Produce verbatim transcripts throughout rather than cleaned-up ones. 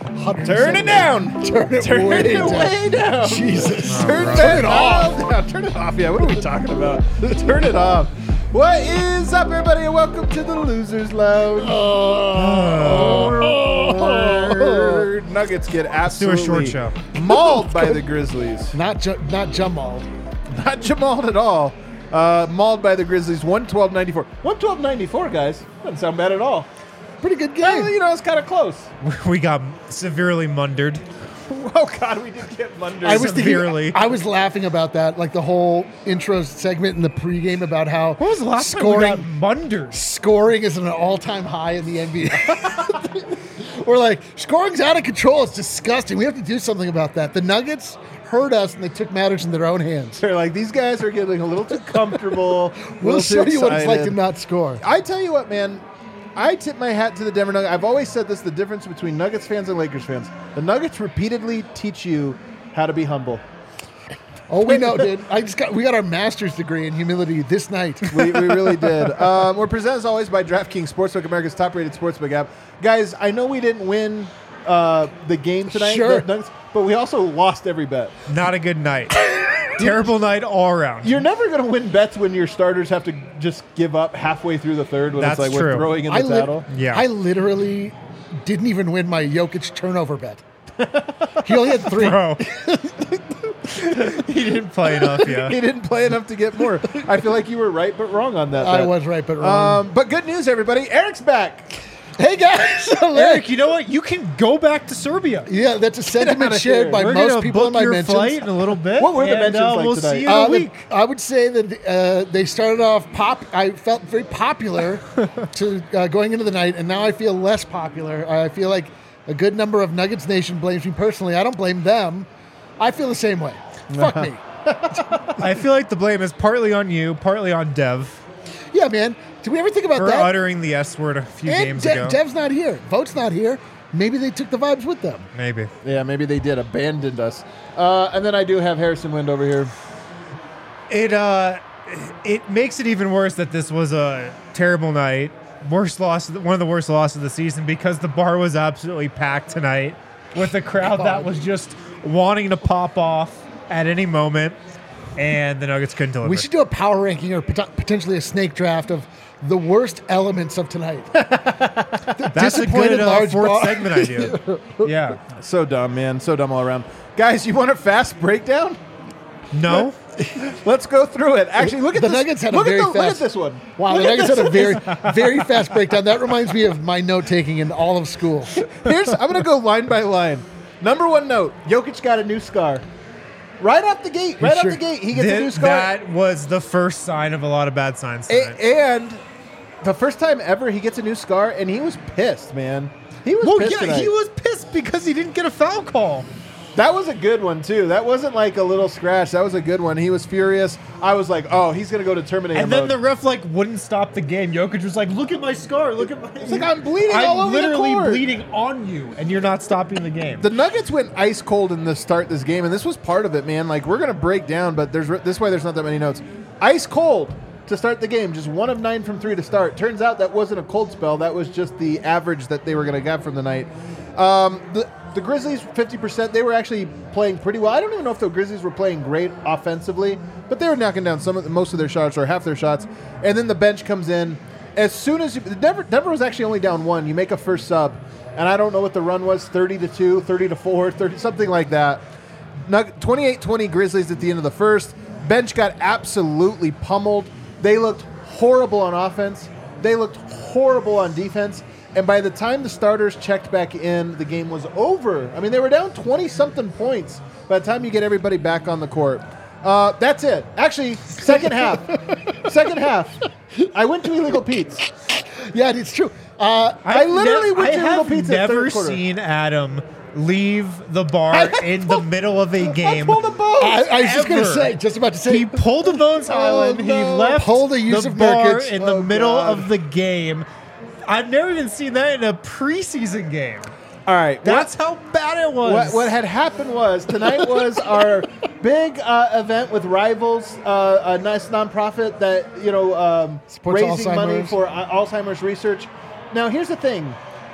Turn it down. Turn it, Turn way, it down. way down. Jesus. Oh, Turn, right. turn it off. Down. Turn it off. Yeah, what are we talking about? Turn it off. What is up, everybody, and welcome to the Losers Lounge. Oh. Oh. Nuggets get absolutely do a short show. mauled by the Grizzlies. Not ju- not Jamal. Not Jamal at all. Uh, mauled by the Grizzlies, one twelve ninety-four. one twelve ninety-four, guys. Doesn't sound bad at all. Pretty good Well, game. you know, it's kind of close. We got severely mundered. Oh, God, we did get Munder. I was severely. thinking, I was laughing about that, like the whole intro segment in the pregame about how When was the last scoring time we got munders? scoring is at an all-time high in the N B A. We're like, scoring's out of control. It's disgusting. We have to do something about that. The Nuggets heard us and they took matters in their own hands. They're like, these guys are getting a little too comfortable. We'll little show too you what it's like to excited. not score. I tell you what, man. I tip my hat to the Denver Nuggets. I've always said this, the difference between Nuggets fans and Lakers fans. The Nuggets repeatedly teach you how to be humble. Oh, we know, dude. I just got we got our master's degree in humility this night. We, we really did. Um, we're presented as always by DraftKings Sportsbook, America's top-rated sportsbook app. Guys, I know we didn't win uh, the game tonight, Sure. the Nuggets, but we also lost every bet. Not a good night. Terrible night all around. You're never going to win bets when your starters have to just give up halfway through the third when That's it's like we're true. throwing in the I, lit- title. Yeah. I literally didn't even win my Jokic turnover bet. He only had three. Bro. He didn't play enough, yeah. He didn't play enough to get more. I feel like you were right but wrong on that. I bet. was right, but wrong. Um, but good news, everybody. Eric's back. hey, guys. Eric, you know what? You can go back to Serbia. Yeah, that's a outta sentiment here. shared by We're most gonna people book in my your mentions. flight in a little bit. What were the and, mentions uh, like we'll tonight? see you in Uh, a the- week. I would say that uh, they started off pop. I felt very popular to uh, going into the night, and now I feel less popular. I feel like a good number of Nuggets Nation blames me personally. I don't blame them. I feel the same way. Fuck me. I feel like the blame is partly on you, partly on Dev Yeah, man. Did we ever think about for that? uttering the S word a few and games De- ago. Dev's not here. Vote's not here. Maybe they took the vibes with them. Maybe. Yeah, maybe they did. Abandoned us. Uh, and then I do have Harrison Wind over here. It uh, it makes it even worse that this was a terrible night. Worst loss, one of the worst losses of the season because the bar was absolutely packed tonight with a crowd that was just wanting to pop off at any moment, and the Nuggets couldn't deliver. We should do a power ranking or pot- potentially a snake draft of the worst elements of tonight. That's a disappointed good uh, large fourth bar. segment idea. Yeah. So dumb, man. So dumb all around. Guys, you want a fast breakdown? No. Let's go through it. Actually, look at The this. Nuggets had a look very at the, Look at fast- this one. Wow, Look the at Nuggets this. had a very, very fast breakdown. That reminds me of my note taking in all of school. Here's. I'm going to go line by line. Number one note: Jokic got a new scar. Right off the gate. Right Sure. off the gate, he gets a Th- new scar. that was the first sign of a lot of bad signs A- tonight. and the first time ever, he gets a new scar, and he was pissed, man. He was well, pissed yeah, tonight. he was pissed because he didn't get a foul call. That was a good one, too. That wasn't like a little scratch. That was a good one. He was furious. I was like, oh, he's going to go to Terminator And then mode. the ref like wouldn't stop the game. Jokic was like, "Look at my scar. Look at my." It's like, I'm bleeding I'm all over the literally court." bleeding on you, and you're not stopping the game. The Nuggets went ice cold in the start this game, and this was part of it, man. Like, we're going to break down, but there's this way there's not that many notes. Ice cold to start the game, just one of nine from three to start. Turns out that wasn't a cold spell. That was just the average that they were going to get from the night. Um, the, the Grizzlies, fifty percent, they were actually playing pretty well. I don't even know if the Grizzlies were playing great offensively, but they were knocking down some of the, most of their shots or half their shots. And then the bench comes in. As soon as you, Denver, Denver was actually only down one. You make a first sub, and I don't know what the run was, thirty to two, thirty to four, thirty, something like that. twenty-eight twenty Grizzlies at the end of the first. Bench got absolutely pummeled. They looked horrible on offense. They looked horrible on defense. And by the time the starters checked back in, the game was over. I mean, they were down twenty-something points by the time you get everybody back on the court. Uh, that's it. Actually, second half. second half. I went to Illegal Pete's. Yeah, it's true. Uh, I literally nev- went to I Illegal have Pete's in the never third quarter. seen Adam leave the bar in the middle of a I game. pulled a bones. I, I was just going to Ever. say, just about to say, He pulled a Bones Island. He no. left Pulled a use the of bar Nurkic. in the Oh, middle God. of the game. I've never even seen that in a preseason game. All right. That's how bad it was. What, what had happened was tonight was our big uh, event with Rivals, uh, a nice nonprofit that you know um, Supports raising money Alzheimer's. for uh, Alzheimer's research. Now, here's the thing: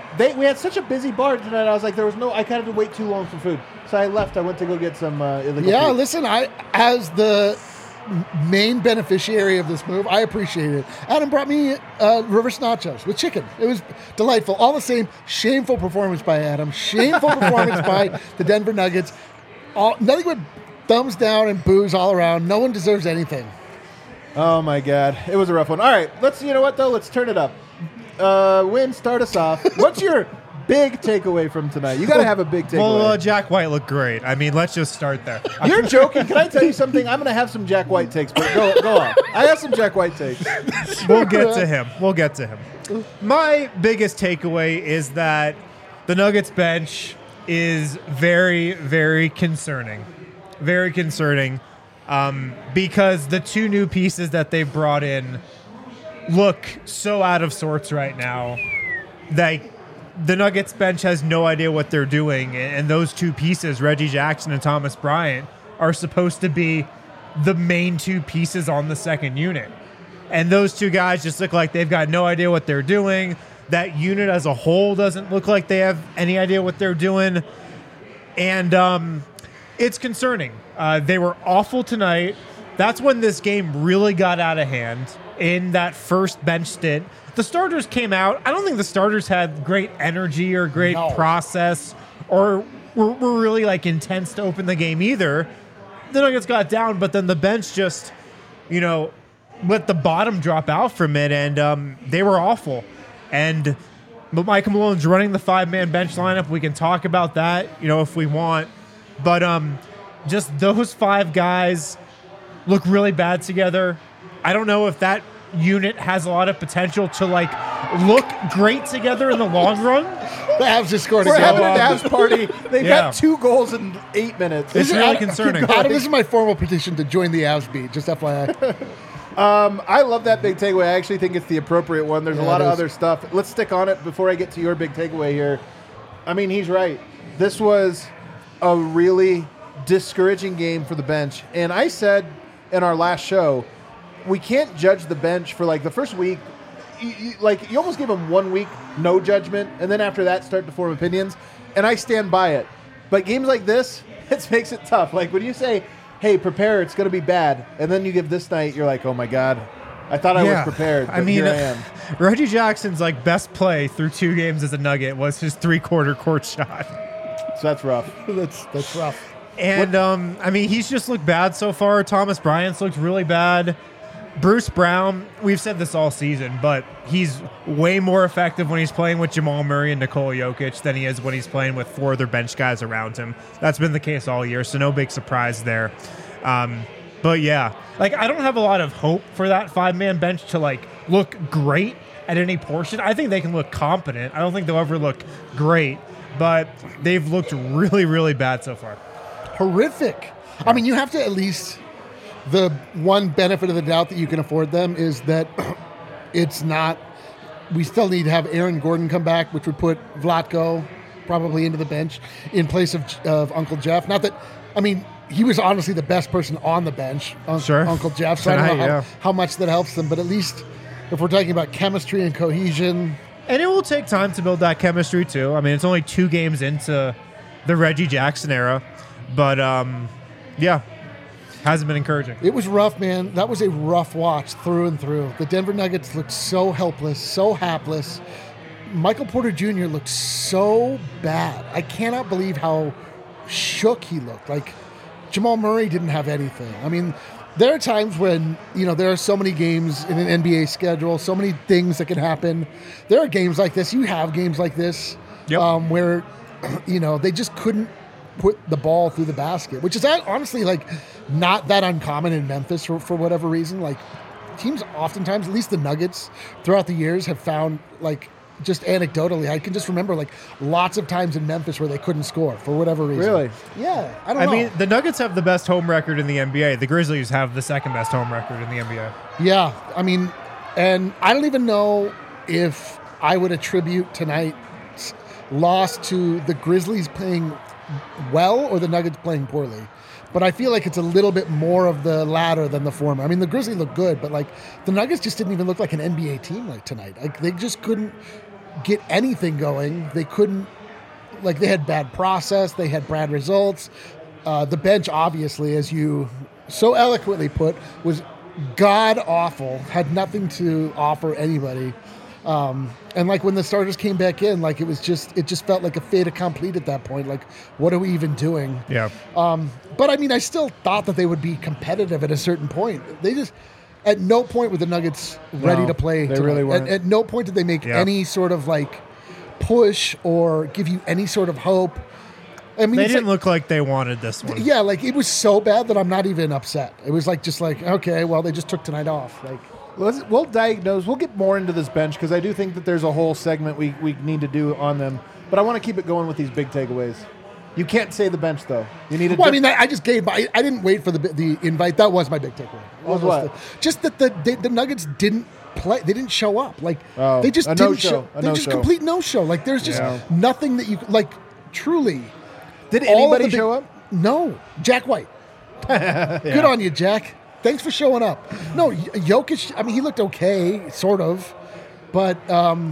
they we had such a busy bar tonight. I was like, there was no. I kind of had to wait too long for food, so I left. I went to go get some uh, illegal. Yeah, food. listen, I as the main beneficiary of this move, I appreciate it. Adam brought me uh, reverse nachos with chicken. It was delightful. All the same, shameful performance by Adam. Shameful performance by the Denver Nuggets. All nothing but thumbs down and boos all around. No one deserves anything. Oh my God, it was a rough one. All right, let's. You know what though? Let's turn it up. Uh, Win, start us off. What's your big takeaway from tonight? You got to have a big takeaway. Well, uh, Jack White looked great. I mean, let's just start there. You're joking. Can I tell you something? I'm going to have some Jack White takes, but go, go on. I have some Jack White takes. We'll get to him. We'll get to him. My biggest takeaway is that the Nuggets bench is very, very concerning. Very concerning um, because the two new pieces that they've brought in look so out of sorts right now that the Nuggets bench has no idea what they're doing. And those two pieces, Reggie Jackson and Thomas Bryant, are supposed to be the main two pieces on the second unit. And those two guys just look like they've got no idea what they're doing. That unit as a whole doesn't look like they have any idea what they're doing. And um, it's concerning. Uh, they were awful tonight. That's when this game really got out of hand. In that first bench stint, the starters came out. I don't think the starters had great energy or great No. process or were, were really like intense to open the game either. The Nuggets got down, but then the bench just, you know, let the bottom drop out from it, and um, they were awful. And but Michael Malone's running the five-man bench lineup. We can talk about that, you know, if we want. But um, just those five guys look really bad together. I don't know if that unit has a lot of potential to like look great together in the long run. The Avs just scored We're a having goal. an Avs party. They've Yeah. got two goals in eight minutes. It's This is- really Adam- concerning. Adam, this is my formal petition to join the Avs beat. Just F Y I. Um, I love that big takeaway. I actually think it's the appropriate one. There's a Yeah, lot it of is. other stuff. Let's stick on it before I get to your big takeaway here. I mean, he's right. This was a really discouraging game for the bench. And I said in our last show, we can't judge the bench for like the first week. You, you, like you almost give them one week, no judgment, and then after that, start to form opinions. And I stand by it. But games like this, it makes it tough. Like when you say, "Hey, prepare, it's going to be bad," and then you give this night, you're like, "Oh my God, I thought I was prepared." But I mean, here I am. Reggie Jackson's like best play through two games as a Nugget was his three-quarter court shot. So that's rough. that's that's rough. And, um, I mean, he's just looked bad so far. Thomas Bryant's looked really bad. Bruce Brown, we've said this all season, but he's way more effective when he's playing with Jamal Murray and Nikola Jokic than he is when he's playing with four other bench guys around him. That's been the case all year, so no big surprise there. Um, but, yeah, like I don't have a lot of hope for that five-man bench to, like, look great at any portion. I think they can look competent. I don't think they'll ever look great, but they've looked really, really bad so far. Horrific. I mean, you have to at least. The one benefit of the doubt that you can afford them is that it's not. We still need to have Aaron Gordon come back, which would put Vlatko probably into the bench in place of of Uncle Jeff. Not that, I mean, he was honestly the best person on the bench, un- Sure. Uncle Jeff. So I don't know Tonight, how, yeah. how much that helps them, but at least if we're talking about chemistry and cohesion, And it will take time to build that chemistry too. I mean, it's only two games into the Reggie Jackson era, but um, yeah, hasn't been encouraging. it was rough, man. That was a rough watch through and through. The Denver Nuggets looked so helpless, so hapless. Michael Porter Junior looked so bad. I cannot believe how shook he looked. Like Jamal Murray didn't have anything. I mean, there are times when, you know, there are so many games in an N B A schedule, so many things that can happen. There are games like this. You have games like this Yep. um, where, you know, they just couldn't put the ball through the basket, which is honestly like not that uncommon in Memphis for, for whatever reason. Like teams oftentimes, at least the Nuggets throughout the years, have found like just anecdotally, I can just remember like lots of times in Memphis where they couldn't score for whatever reason. Really? Yeah. I don't I know. mean, the Nuggets have the best home record in the N B A. The Grizzlies have the second best home record in the N B A. Yeah, I mean, and I don't even know if I would attribute tonight's loss to the Grizzlies playing well or the Nuggets playing poorly. But I feel like it's a little bit more of the latter than the former. I mean, the Grizzlies look good, but like the Nuggets just didn't even look like an N B A team like tonight. Like they just couldn't get anything going. They couldn't, like, they had bad process. They had bad results. Uh, the bench, obviously, as you so eloquently put, was god awful. Had nothing to offer anybody. Um, and like when the starters came back in, like it was just, it just felt like a fait accompli at that point. Like, what are we even doing? Yeah. Um, but I mean, I still thought that they would be competitive at a certain point. They just, at no point were the Nuggets ready No, to play. they tonight. really weren't. At, at no point did they make Yeah. any sort of like push or give you any sort of hope. I mean, They it's didn't like, look like they wanted this one. yeah, like it was so bad that I'm not even upset. It was like, just like, okay, well, they just took tonight off. Like, Let's, we'll diagnose. We'll get more into this bench because I do think that there's a whole segment we, we need to do on them. But I want to keep it going with these big takeaways. You can't say the bench though. You need to. well, I mean, I, I just gave. I, I didn't wait for the the invite. That was my big takeaway. Was Almost what? the- just that the they, the Nuggets didn't play. They didn't show up. Like Oh, they just a didn't no-show, show. a They're just no-show. complete no show. Like there's just Yeah. nothing that you like. Truly, Did all of anybody the big- show up? No, Jack White. Good on you, Jack. Thanks for showing up. No, Y- Jokic. I mean, he looked okay, sort of, but um,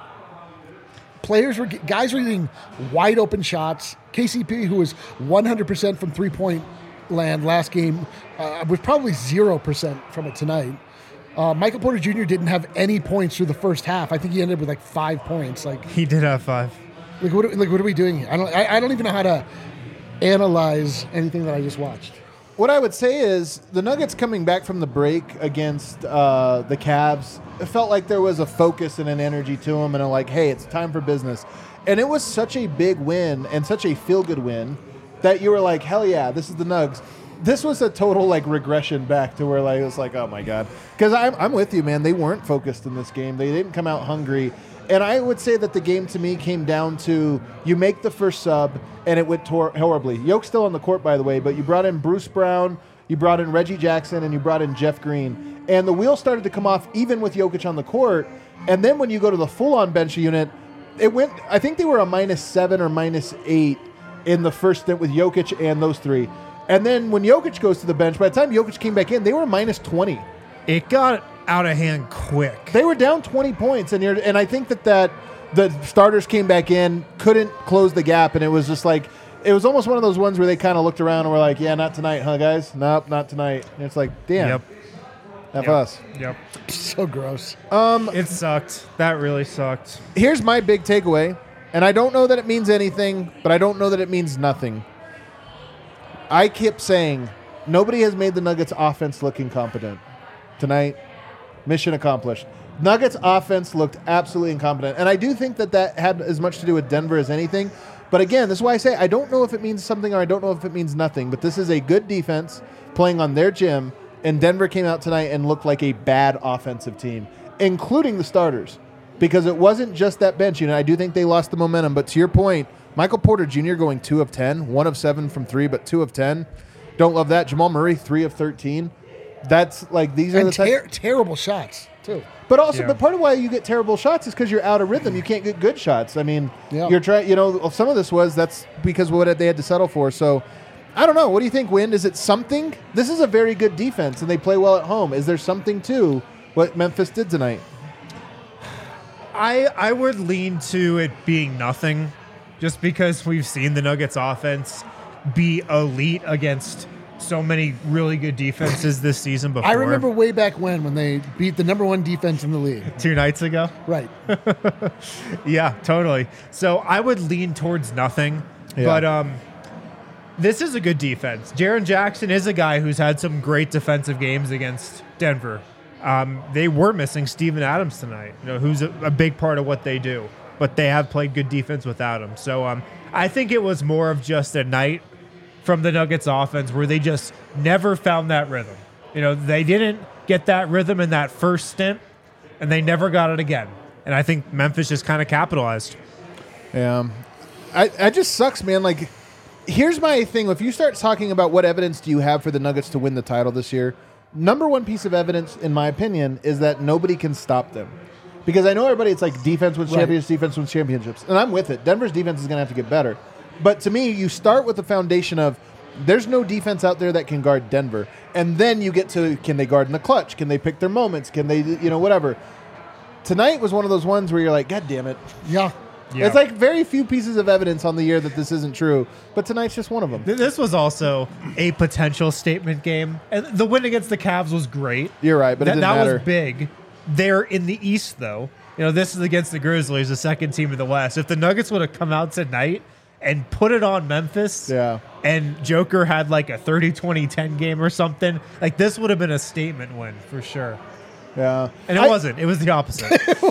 players were guys were getting wide open shots. K C P, who was one hundred percent from three point land last game, uh, was probably zero percent from it tonight. Uh, Michael Porter Junior didn't have any points through the first half. I think he ended up with like five points. Like, He did have five. like what? Are, like what are we doing here? I don't. I, I don't even know how to analyze anything that I just watched. What I would say is the Nuggets coming back from the break against uh, the Cavs, it felt like there was a focus and an energy to them, and a like, hey, it's time for business. And it was such a big win and such a feel-good win that you were like, hell yeah, this is the Nugs. This was a total like regression back to where like it was like, oh my god, because I'm I'm with you, man. They weren't focused in this game. They didn't come out hungry. And I would say that the game to me came down to you make the first sub and it went tor- horribly. Yoke's still on the court, by the way, but you brought in Bruce Brown, you brought in Reggie Jackson, and you brought in Jeff Green. And the wheels started to come off even with Jokic on the court. And then when you go to the full-on bench unit, it went, I think they were a minus seven or minus eight in the first stint with Jokic and those three. And then when Jokic goes to the bench, by the time Jokic came back in, they were minus twenty. It got out of hand quick. They were down twenty points, and you're, and I think that, that the starters came back in, couldn't close the gap, and it was just like, it was almost one of those ones where they kind of looked around and were like, yeah, not tonight, huh, guys? Nope, not tonight. And it's like, damn, Yep. F Yep. us. Yep. So gross. It sucked. That really sucked. Here's my big takeaway, and I don't know that it means anything, but I don't know that it means nothing. I kept saying, nobody has made the Nuggets offense look incompetent. Tonight, mission accomplished. Nuggets offense looked absolutely incompetent, and I do think that that had as much to do with Denver as anything. But again, this is why I say I don't know if it means something or I don't know if it means nothing, but this is a good defense playing on their gym, and Denver came out tonight and looked like a bad offensive team, including the starters, because it wasn't just that bench unit. I do think they lost the momentum, but to your point, Michael Porter Junior going two of ten, one of seven from three, but two of ten. Don't love that. Jamal Murray, three of thirteen. That's like, these are And the type- ter- terrible shots too. But also, Yeah. but part of why you get terrible shots is because you're out of rhythm. You can't get good shots. I mean, Yeah. you're trying. You know, some of this was that's because of what they had to settle for. So, I don't know. What do you think, Wind? Is it something? This is a very good defense, and they play well at home. Is there something to what Memphis did tonight? I I would lean to it being nothing, just because we've seen the Nuggets offense be elite against so many really good defenses this season before. I remember way back when when they beat the number one defense in the league. two nights ago. Right. Yeah, totally. So I would lean towards nothing, Yeah. but um, this is a good defense. Jaren Jackson is a guy who's had some great defensive games against Denver. Um, they were missing Steven Adams tonight, you know, who's a, a big part of what they do, but they have played good defense without him. So um, I think it was more of just a night from the Nuggets offense where they just never found that rhythm. You know, they didn't get that rhythm in that first stint, and they never got it again. And I think Memphis just kind of capitalized. Yeah, I, I just sucks, man. Like, here's my thing. If you start talking about what evidence do you have for the Nuggets to win the title this year, number one piece of evidence, in my opinion, is that nobody can stop them. Because I know everybody, it's like defense wins Right. championships, defense wins championships. And I'm with it. Denver's defense is going to have to get better. But to me, you start with the foundation of there's no defense out there that can guard Denver. And then you get to, can they guard in the clutch? Can they pick their moments? Can they, you know, whatever. tonight was one of those ones where you're like, God damn it. Yeah. Yeah. It's like very few pieces of evidence on the year that this isn't true, but tonight's just one of them. Th- This was also a potential statement game. And the win against the Cavs was great. You're right, but it that, didn't that matter. was big. They're in the East, though. You know, this is against the Grizzlies, the second team in the West. If the Nuggets would have come out tonight and put it on Memphis, Yeah. and Joker had like a thirty twenty ten game or something, like this would have been a statement win for sure. Yeah. And it I, wasn't. It was the opposite.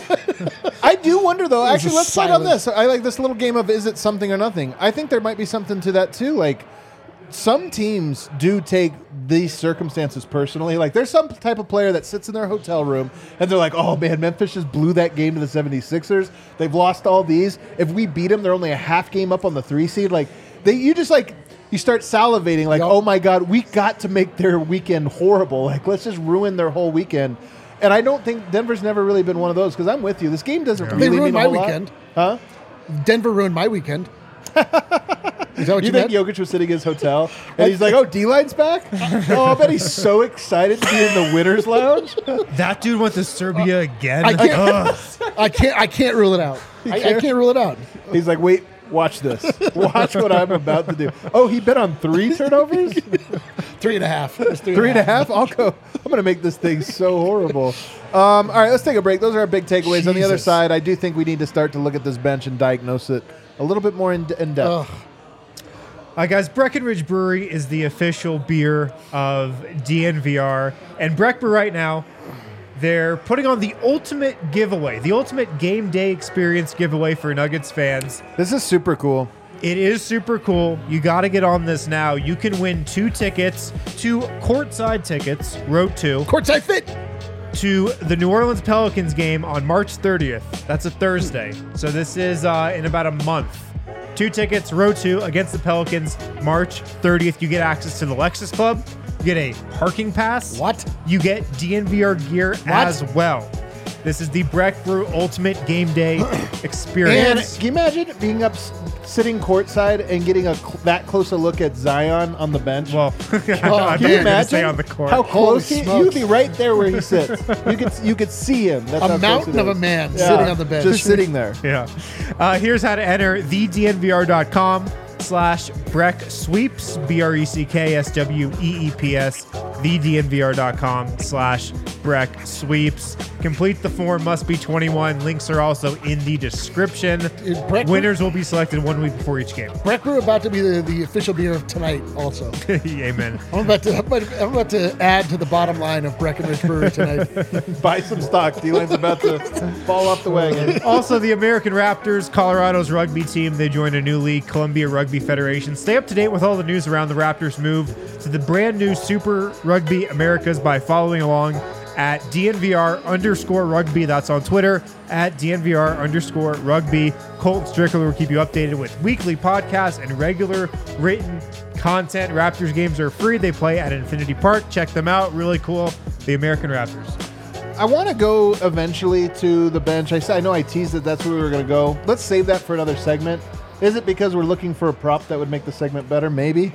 I do wonder, though. was Actually, a let's fight on silence. this. I like this little game of is it something or nothing. I think there might be something to that, too. Like, some teams do take these circumstances personally. Like, there's some type of player that sits in their hotel room and they're like, oh, man, Memphis just blew that game to the seventy-sixers. They've lost all these. If we beat them, they're only a half game up on the three seed. Like, they, you just, like, you start salivating, like, Yep. oh, my God, we got to make their weekend horrible. Like, let's just ruin their whole weekend. And I don't think Denver's never really been one of those because I'm with you. This game doesn't They really ruined mean a my whole lot. weekend. Huh? Denver ruined my weekend. Is that what You you, think meant? Jokic was sitting in his hotel and he's like, oh, D-Line's back? Oh, I bet he's so excited to be in the winner's lounge. That dude went to Serbia again. I can't- Ugh. I can't. I can't rule it out. I, I can't? can't rule it out. He's like, wait, watch this. Watch what I'm about to do. Oh, he bet on three turnovers? Three and a half. It was three, Three and a half? I'll go. I'm going to make this thing so horrible. Um, all right, let's take a break. Those are our big takeaways. On the other Jesus. side, I do think we need to start to look at this bench and diagnose it a little bit more in, in depth. Ugh. All right, guys, Breckenridge Brewery is the official beer of D N V R. And Breck Brew right now, they're putting on the ultimate giveaway, the ultimate game day experience giveaway for Nuggets fans. This is super cool. It is super cool. You got to get on this now. You can win two tickets, two courtside tickets, row two, Courtside fit. to the New Orleans Pelicans game on March thirtieth. That's a Thursday. So this is uh, in about a month. Two tickets, row two against the Pelicans, March thirtieth. You get access to the Lexus Club. You get a parking pass. What? You get D N V R gear as well. This is the Breck Brew Ultimate Game Day And experience. can you imagine being up, s- sitting courtside and getting a cl- that close a look at Zion on the bench? Well, I Can thought Can you you were going to say imagine on the court. how Holy close he, smokes. you'd be right there where he sits. You could you could see him. That's how A close mountain it of a is. man Yeah, sitting on the bench. just sitting there. Yeah. Uh, here's how to enter the D N V R dot com slash Breck Sweeps, B R E C K S W E E P S, the D N V R dot com slash Breck Sweeps. Complete the form, must be twenty-one. Links are also in the description. Is Breck- Winners will be selected one week before each game. Breck Brew about to be the, the official beer of tonight. Also, Amen. I'm about to. I'm about to, I'm about to add to the bottom line of Breckenridge Brewery tonight. Buy some stock. D-Line's about to fall off the wagon. Also, the American Raptors, Colorado's rugby team, they joined a new league, Columbia Rugby Federation. Stay up to date with all the news around the Raptors' move to the brand new Super Rugby Americas by following along at D N V R underscore rugby. That's on Twitter, at D N V R underscore rugby. Colton Strickler will keep you updated with weekly podcasts and regular written content. Raptors games are free. They play at Infinity Park. Check them out. Really cool. The American Raptors. I want to go eventually to the bench. I said I know I teased that that's where we were going to go. Let's save that for another segment. Is it because we're looking for a prop that would make the segment better? Maybe.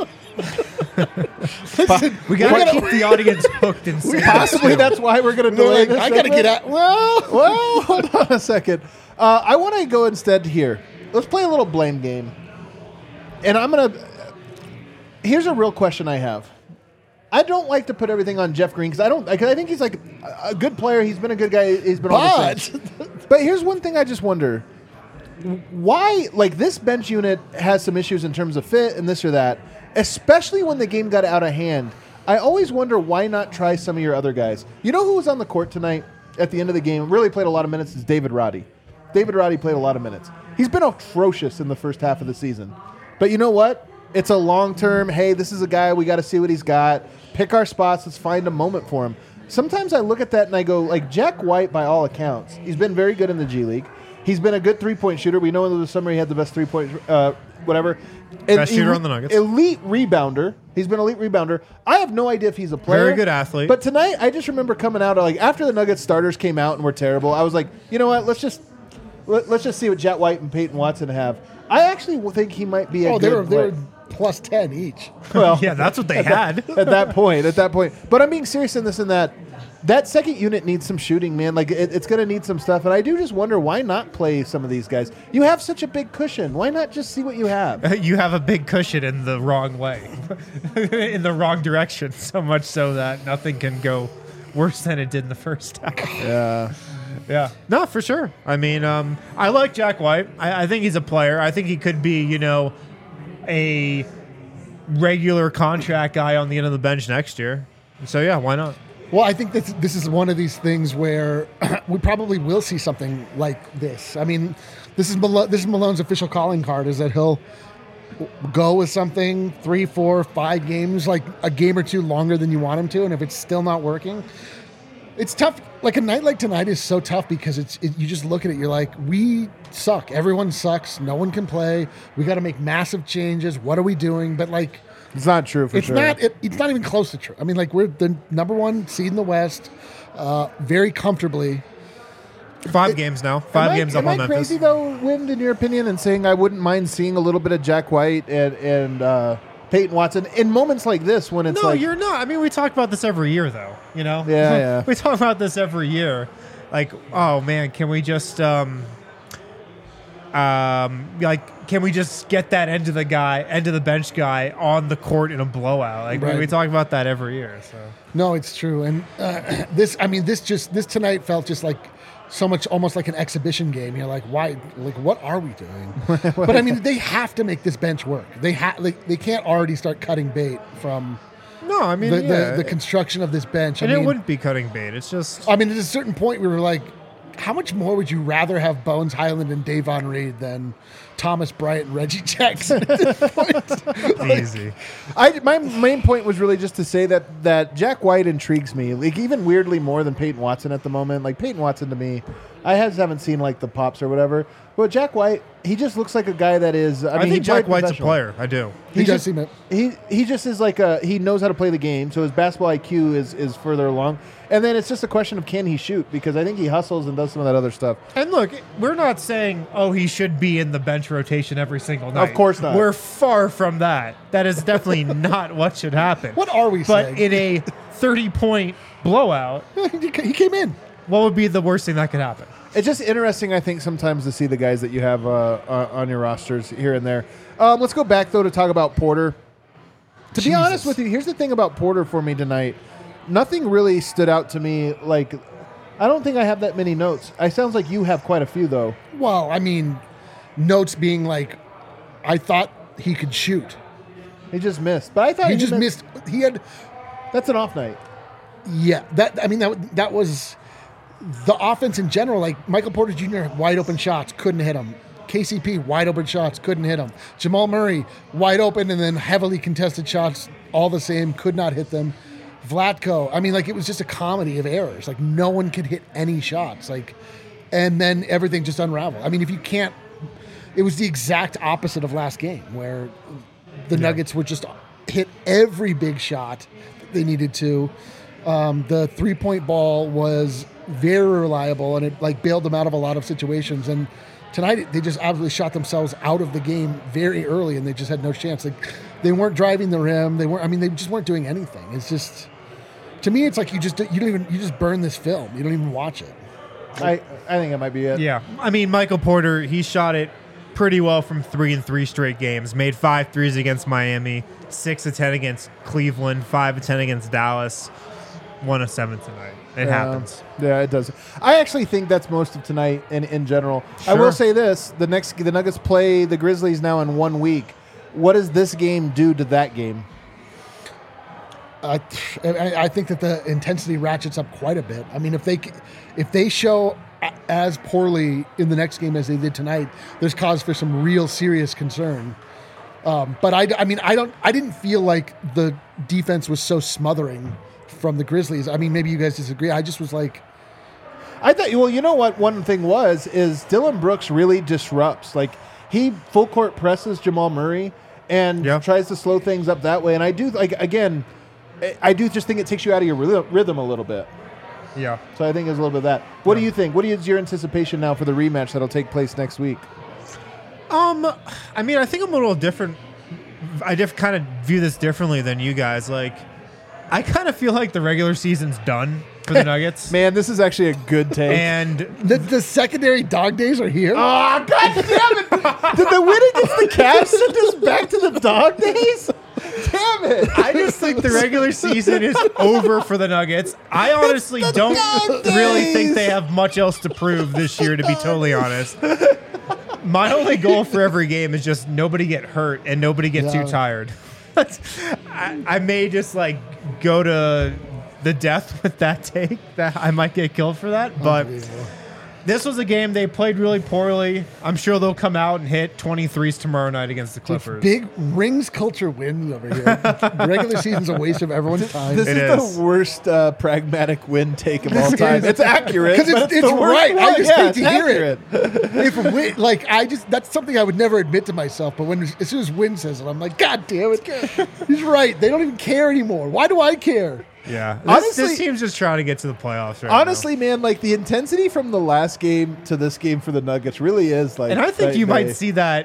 We got to keep the audience hooked and Possibly that's why we're going to delay like, this I gotta segment. get out. Well, Well, hold on a second. Uh, I want to go instead here. Let's play a little blame game. And I'm going to... Here's a real question I have. I don't like to put everything on Jeff Green because I don't. Cause I think he's like a, a good player. He's been a good guy. He's been on the but Saints. But here's one thing I just wonder. Why, like, this bench unit has some issues in terms of fit and this or that, especially when the game got out of hand. I always wonder why not try some of your other guys. You know who was on the court tonight at the end of the game, really played a lot of minutes, is David Roddy. David Roddy played a lot of minutes. He's been atrocious in the first half of the season. But you know what? It's a long-term, hey, this is a guy, we got to see what he's got. Pick our spots, let's find a moment for him. Sometimes I look at that and I go, like, Jack White, by all accounts, he's been very good in the G League. He's been a good three-point shooter. We know in the summer he had the best three-point, uh, whatever. Best And shooter elite- on the Nuggets. Elite rebounder. He's been elite rebounder. I have no idea if he's a player. Very good athlete. But tonight, I just remember coming out, like, after the Nuggets starters came out and were terrible, I was like, you know what, let's just let, let's just see what Jack White and Peyton Watson have. I actually think he might be a oh, good they were they player. were plus ten each. Well, Yeah, that's what they had. at that point. At that point, but I'm being serious in this and that. That second unit needs some shooting, man. Like it, it's going to need some stuff, and I do just wonder why not play some of these guys. You have such a big cushion. Why not just see what you have? You have a big cushion in the wrong way, in the wrong direction, so much so that nothing can go worse than it did in the first half. Yeah. Yeah, no, for sure. I mean, um, I like Jack White. I, I think he's a player. I think he could be, you know, a regular contract guy on the end of the bench next year. So yeah, why not? Well, I think that this is one of these things where we probably will see something like this. I mean, this is Malo- this is Malone's official calling card, is that he'll go with something three, four, five games, like a game or two longer than you want him to, and if it's still not working, it's tough. Like a night like tonight is so tough because it's it, you just look at it, you're like, we suck. Everyone sucks. No one can play. We got to make massive changes. What are we doing? But like, It's not true for it's sure. not. It, it's not even close to true. I mean, like we're the number one seed in the West, uh, very comfortably. Five games now. Five am games I, up am on I Memphis. crazy though, Wind, in your opinion, and saying I wouldn't mind seeing a little bit of Jack White and and uh, Peyton Watson in moments like this when it's No, like you're not. I mean, we talk about this every year, though. You know. Yeah, yeah. We talk about this every year. Like, oh man, can we just um, um, like, can we just get that end of the guy, end of the bench guy on the court in a blowout? Like, we, Right. we talk about that every year. So. No, it's true. And uh, this, I mean, this just this tonight felt just like so much, almost like an exhibition game. You're like, why? Like, what are we doing? But I mean, they have to make this bench work. They have. Like, they can't already start cutting bait from No, I mean, the, yeah. the, the construction of this bench. and I it mean, wouldn't be cutting bait. It's just I mean, at a certain point, we were like, how much more would you rather have Bones Highland and Davon Reed than Thomas Bryant and Reggie Jackson at this point? Like, easy. I, my main point was really just to say that that Jack White intrigues me, like even weirdly more than Peyton Watson at the moment. Like Peyton Watson to me, I has, haven't seen like the pops or whatever, but Jack White, he just looks like a guy that is. I, I, mean, think he Jack played White's a professional. player. I do. He He does just- seem it. He he just is like a he knows how to play the game, so his basketball I Q is is further along. And then it's just a question of can he shoot, because I think he hustles and does some of that other stuff. And look, we're not saying, oh, he should be in the bench rotation every single night. Of course not. We're far from that. That is definitely not what should happen. What are we But saying? in a thirty-point blowout, He came in. what would be the worst thing that could happen? It's just interesting, I think, sometimes to see the guys that you have uh, uh, on your rosters here and there. Um, let's go back, though, to talk about Porter. To be Jesus. honest with you, here's the thing about Porter for me tonight. Nothing really stood out to me. Like, I don't think I have that many notes. I sounds like you have quite a few, though. Well, I mean, notes being like, I thought he could shoot. He just missed. But I thought He just missed. missed. He had, That's an off night. yeah. That I mean, that that was the offense in general. Like Michael Porter Junior wide open shots, couldn't hit him. K C P wide open shots, couldn't hit him. Jamal Murray wide open and then heavily contested shots, all the same, could not hit them. Vlatko, I mean, like it was just a comedy of errors. Like no one could hit any shots. Like, and then everything just unraveled. I mean, if you can't, it was the exact opposite of last game where the Nuggets would just hit every big shot that they needed to. Um, the three point ball was very reliable and it like bailed them out of a lot of situations. And tonight they just absolutely shot themselves out of the game very early and they just had no chance. Like they weren't driving the rim. They weren't, I mean, they just weren't doing anything. It's just, to me, it's like you just, you don't even, you just burn this film. You don't even watch it. I, I think that might be it. Yeah. I mean, Michael Porter, he shot it pretty well from three in three straight games. Made five threes against Miami, six of ten against Cleveland, five of ten against Dallas, one of seven tonight. It Yeah. happens. Yeah, it does. I actually think that's most of tonight in, in general. I Sure. will say this: the next the Nuggets play the Grizzlies now in one week. What does this game do to that game? I, I I think that the intensity ratchets up quite a bit. I mean, if they if they show a- as poorly in the next game as they did tonight, there's cause for some real serious concern. Um, but I, I mean, I don't, I didn't feel like the defense was so smothering from the Grizzlies. I mean, maybe you guys disagree. I just was like, I thought. Well, you know what? One thing was is Dylan Brooks really disrupts. Like he full court presses Jamal Murray and Yeah. tries to slow things up that way. And I do like again, I- I do just think it takes you out of your rhythm, rhythm a little bit. Yeah. So I think there's a little bit of that. What do you think? What is your anticipation now for the rematch that'll take place next week? Um, I mean, I think I'm a little different I diff- kind of view this differently than you guys. Like, I kind of feel like the regular season's done for the Nuggets. Man, this is actually a good take. And The, the secondary dog days are here. Oh, God damn it! Did the win against the Cavs send us back to the dog days? Damn it! I just think the regular season is over for the Nuggets. I honestly the don't dog really days. think they have much else to prove this year, to be totally honest. My only goal for every game is just nobody get hurt and nobody get Yeah. too tired. I, I may just like go to the death with that take. That I might get killed for that, but Unbelievable. this was a game they played really poorly. I'm sure they'll come out and hit twenty-threes tomorrow night against the Clippers. Big rings culture wins over here. The regular season's a waste of everyone's time. This It is, is. the worst uh, pragmatic win take of all time. It's accurate. Because but it's, it's, it's the worst right. I one. just Yeah, hate it's to hear accurate. it. If Win, like I just that's something I would never admit to myself. But when as soon as Win says it, I'm like, God damn it, he's right. They don't even care anymore. Why do I care? Yeah, this, Honestly- this team's just trying to get to the playoffs right Honestly, man, like the intensity from the last game to this game for the Nuggets really is like. now. And I think night you and might day. see that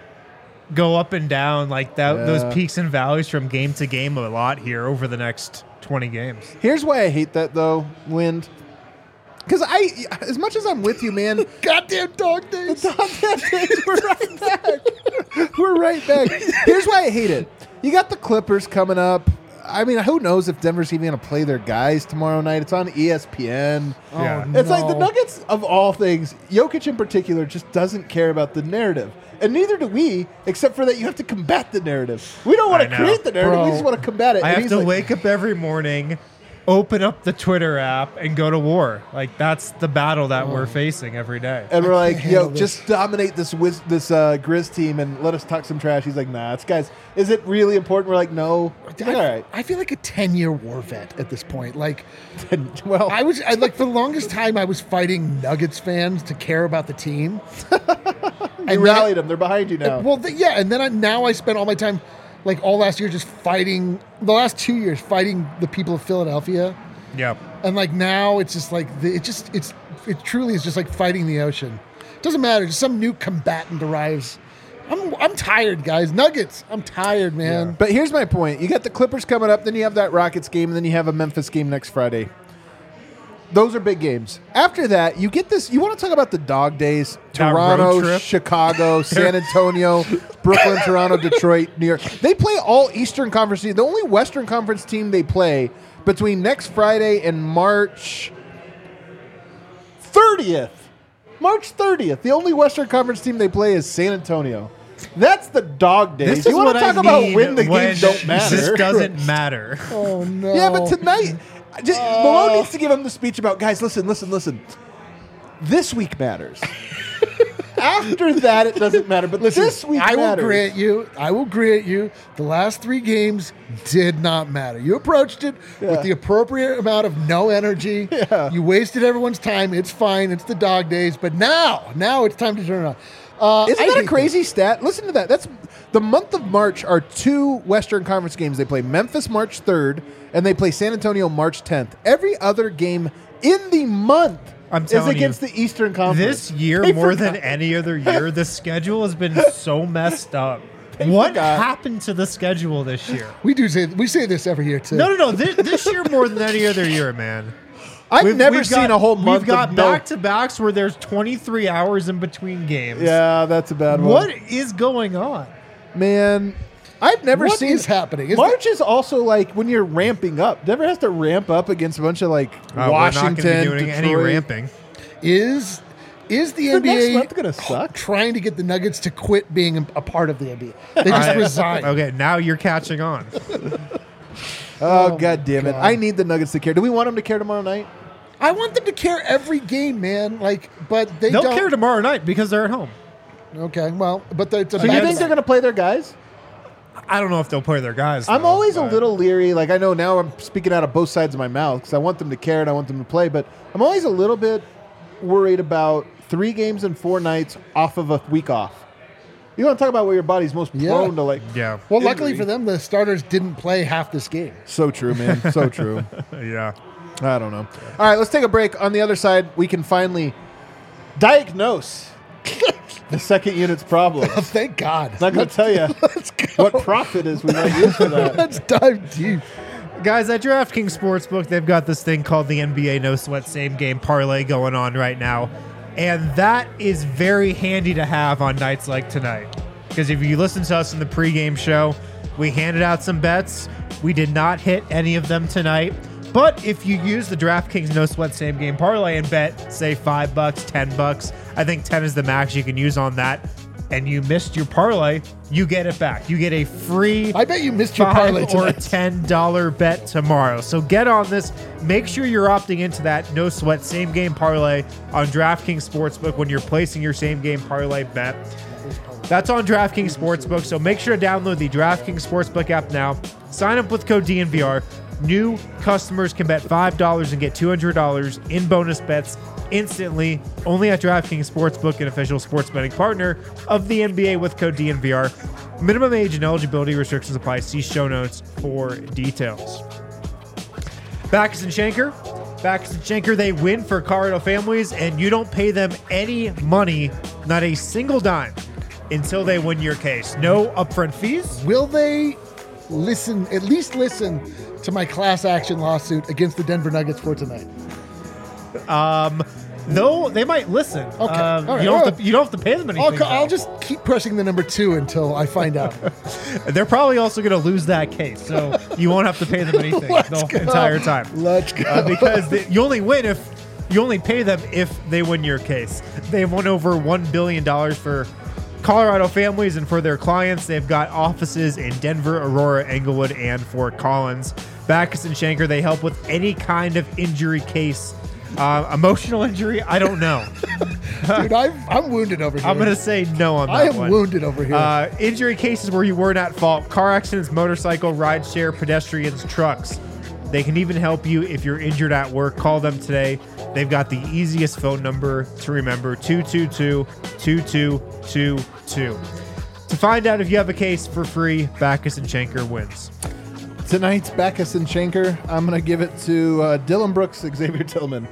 go up and down, like that Yeah. those peaks and valleys from game to game a lot here over the next twenty games. Here's why I hate that though, Wind. Because I, as much as I'm with you, man, Goddamn dog days. Dog days, we're right back. We're right back. Here's why I hate it. You got the Clippers coming up. I mean, who knows if Denver's even going to play their guys tomorrow night? It's on E S P N. Oh, Yeah. It's like the no. Nuggets, of all things, Jokic in particular, just doesn't care about the narrative. And neither do we, except for that you have to combat the narrative. We don't want I to know. create the narrative. Bro. We just want to combat it. I And have he's to like, wake up every morning, open up the Twitter app, and go to war. Like that's the battle that we're facing every day. And we're like, can't yo, handle this. just dominate this Wiz, this uh, Grizz team and let us talk some trash. He's like, nah, it's guys, is it really important? We're like, no. It's like, I, all right. I feel like a ten-year war vet at this point. Like well, I was, I, like for the longest time, I was fighting Nuggets fans to care about the team. you then- rallied them. They're behind you now. Well, th- yeah, and then I, now I spent all my time, like all last year, just fighting. The last two years, fighting the people of Philadelphia, Yep. and like now it's just like the, it just it's it truly is just like fighting the ocean. Doesn't matter. Just some new combatant arrives. I'm I'm tired, guys. Nuggets. I'm tired, man. But here's my point. You got the Clippers coming up, then you have that Rockets game, and then you have a Memphis game next Friday. Those are big games. After that, you get this. You want to talk about the dog days? That road Toronto, trip. Chicago, San Antonio, Brooklyn, Toronto, Detroit, New York. They play all Eastern Conference teams. The only Western Conference team they play between next Friday and March thirtieth. March thirtieth. The only Western Conference team they play is San Antonio. That's the dog days. This you is want what to talk I about need when the when games don't matter? This doesn't matter. Oh no. Yeah, but tonight, just, Malone needs to give him the speech about, guys, listen, listen, listen. This week matters. After that, it doesn't matter, but Listen, this week I will matters. grant you, I will grant you, the last three games did not matter. You approached it Yeah. with the appropriate amount of no energy. Yeah. You wasted everyone's time. It's fine. It's the dog days. But now, now it's time to turn it on. Uh, Isn't I that a hate crazy stat? Listen to that. That's the month of March are two Western Conference games. They play Memphis March third, and they play San Antonio March tenth. Every other game in the month I'm is telling against you, the Eastern Conference. This year, They more forgot. than any other year, the schedule has been so messed up. What forgot. happened to the schedule this year? it. We do say we say this every year too. No, no, no. This, this year more than any other year, man. I've We've- never we've seen got- a whole month We've got of no- back to backs where there's twenty-three hours in between games. Yeah, that's a bad one. What is going on? Man, I've never What seen is happening? Is March is also like when you're ramping up. Denver has to ramp up against a bunch of like Uh, Washington, we're not going to be doing any Detroit. ramping. Is is the The N B next A month gonna suck. trying to get the Nuggets to quit being a, a part of the N B A? They just I- resigned. Okay, now you're catching on. Oh, Oh, god damn it! God. I need the Nuggets to care. Do we want them to care tomorrow night? I want them to care every game, man. Like, but they They'll don't care tomorrow night because they're at home. Okay, well, but the, it's a So you bad think they're going to play their guys? I don't know if they'll play their guys. I'm though, always a but- little leery. Like I know now I'm speaking out of both sides of my mouth because I want them to care and I want them to play, but I'm always a little bit worried about three games and four nights off of a week off. You want to talk about where your body's most Yeah. prone to like. Yeah. Well, luckily injury. for them, the starters didn't play half this game. So true, man. So true. Yeah. I don't know. All right, let's take a break. On the other side, we can finally diagnose the second unit's problem. Thank God. It's not going to tell you what profit is we might use for that. Let's dive deep. Guys, at DraftKings Sportsbook, they've got this thing called the N B A No Sweat Same Game Parlay going on right now. And that is very handy to have on nights like tonight. Because if you listen to us in the pregame show, we handed out some bets. We did not hit any of them tonight. But if you use the DraftKings No Sweat Same Game Parlay and bet, say, five bucks, ten bucks, I think ten is the max you can use on that, and you missed your parlay, you get it back. You get a free I bet you missed your five parlay or tonight. ten dollar bet tomorrow. So get on this. Make sure you're opting into that No Sweat Same Game Parlay on DraftKings Sportsbook when you're placing your same game parlay bet. That's on DraftKings Sportsbook, so make sure to download the DraftKings Sportsbook app now. Sign up with code D N V R. New customers can bet five dollars and get two hundred dollars in bonus bets instantly, only at DraftKings Sportsbook, an official sports betting partner of the N B A with code D N V R. Minimum age and eligibility restrictions apply. See show notes for details. Backus and Schenker. Backus and Schenker, they win for Colorado families, and you don't pay them any money, not a single dime, until they win your case. No upfront fees. Will they listen, at least listen to my class action lawsuit against the Denver Nuggets for tonight? Um, though they might listen. Okay. Um, All right. you, don't All have to, you don't have to pay them I'll, anything. co- I'll though. just keep pressing the number two until I find out. They're probably also going to lose that case, so you won't have to pay them anything Let's the go. entire time. Let's go. Uh, because they, you only win if you only pay them if they win your case. They've won over one billion dollars for Colorado families and for their clients. They've got offices in Denver, Aurora, Englewood, and Fort Collins. Backus and Schenker, they help with any kind of injury case. Uh, emotional injury, I don't know. Dude, I'm, I'm wounded over here. I'm going to say no on that I am one. wounded over here. Uh, injury cases where you weren't at fault. Car accidents, motorcycle, rideshare, pedestrians, trucks. They can even help you if you're injured at work. Call them today. They've got the easiest phone number to remember, two two two, two two two two. To find out if you have a case for free, Backus and Schenker wins. Tonight's Backus and Schenker, I'm going to give it to uh, Dylan Brooks, Xavier Tillman.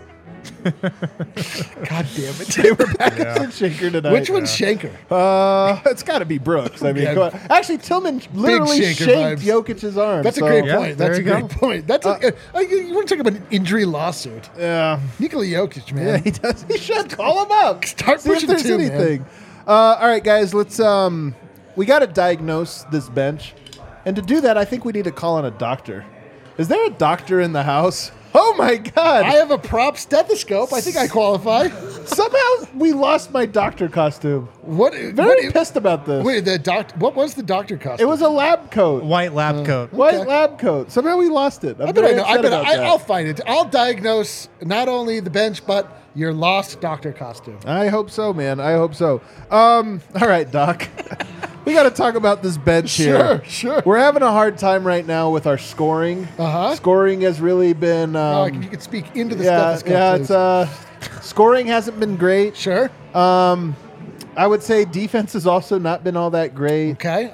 God damn it. They were Backus Yeah. and Schenker tonight. Which one's Schenker? Uh, it's got to be Brooks. I mean, Okay. come on. Actually, Tillman literally Schenker shanked vibes. Jokic's arm. That's a so- great Yeah, point. That's a there you great go. point. That's a, uh, you, you want to talk about an injury lawsuit? Yeah. Nikola Jokic, man. Yeah, he does. He should call him up. Start See if pushing there's two, man. anything. Uh, all right, guys. Let's. Um, we got to diagnose this bench, and to do that, I think we need to call on a doctor. Is there a doctor in the house? Oh my God! I have a prop stethoscope. I think I qualify. Somehow we lost my doctor costume. What? Very what pissed about this. Wait, the doc. What was the doctor It costume? was a lab coat, White lab coat. white okay. lab coat. Somehow we lost it. I'm I bet I very know. I upset bet about I, that. I'll find it. I'll diagnose not only the bench but your lost doctor costume. I hope so, man. I hope so. Um, all right, Doc. We got to talk about this bench here. Sure, sure. We're having a hard time right now with our scoring. Uh-huh. Scoring has really been. Oh, Um, you could speak into the yeah, stethoscope. yeah. please. It's uh, scoring hasn't been great. Sure. Um, I would say defense has also not been all that great. Okay.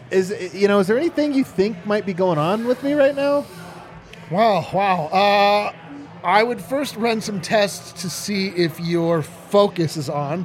Is you know, is there anything you think might be going on with me right now? Wow. Wow. Uh, I would first run some tests to see if your focus is on.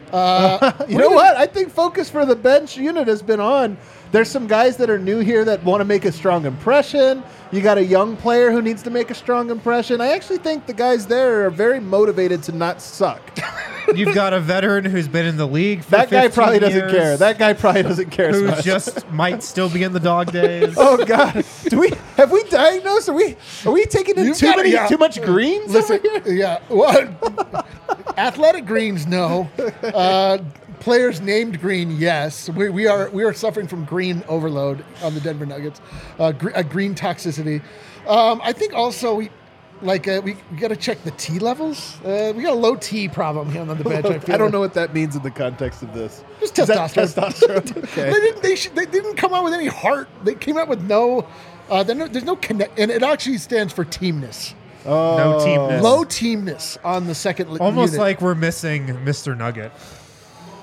Uh, You know what? I think focus for the bench unit has been on. There's some guys that are new here that want to make a strong impression. You got a young player who needs to make a strong impression. I actually think the guys there are very motivated to not suck. You've got a veteran who's been in the league for That guy fifteen probably doesn't years, care. That guy probably doesn't care as who much. just might still be in the dog days. Oh God! Do we have we diagnosed? Are we are we taking in You've too gotta- many yeah. too much greens? Listen, over here? yeah. What? Athletic greens, no. Uh, players named green, yes. We, we are we are suffering from green overload on the Denver Nuggets, uh, gr- uh, green toxicity. Um, I think also we like uh, we, we got to check the T levels. Uh, we got a low T problem here on the bench. I, feel I don't know what that means in the context of this. Just Is that testosterone. testosterone? Okay. They didn't. They, should, they didn't come out with any heart. They came out with no. Uh, there's no, there's no connect, and it actually stands for teamness. Oh. No teamness. Low teamness on the second li- Almost unit. like we're missing Mister Nugget.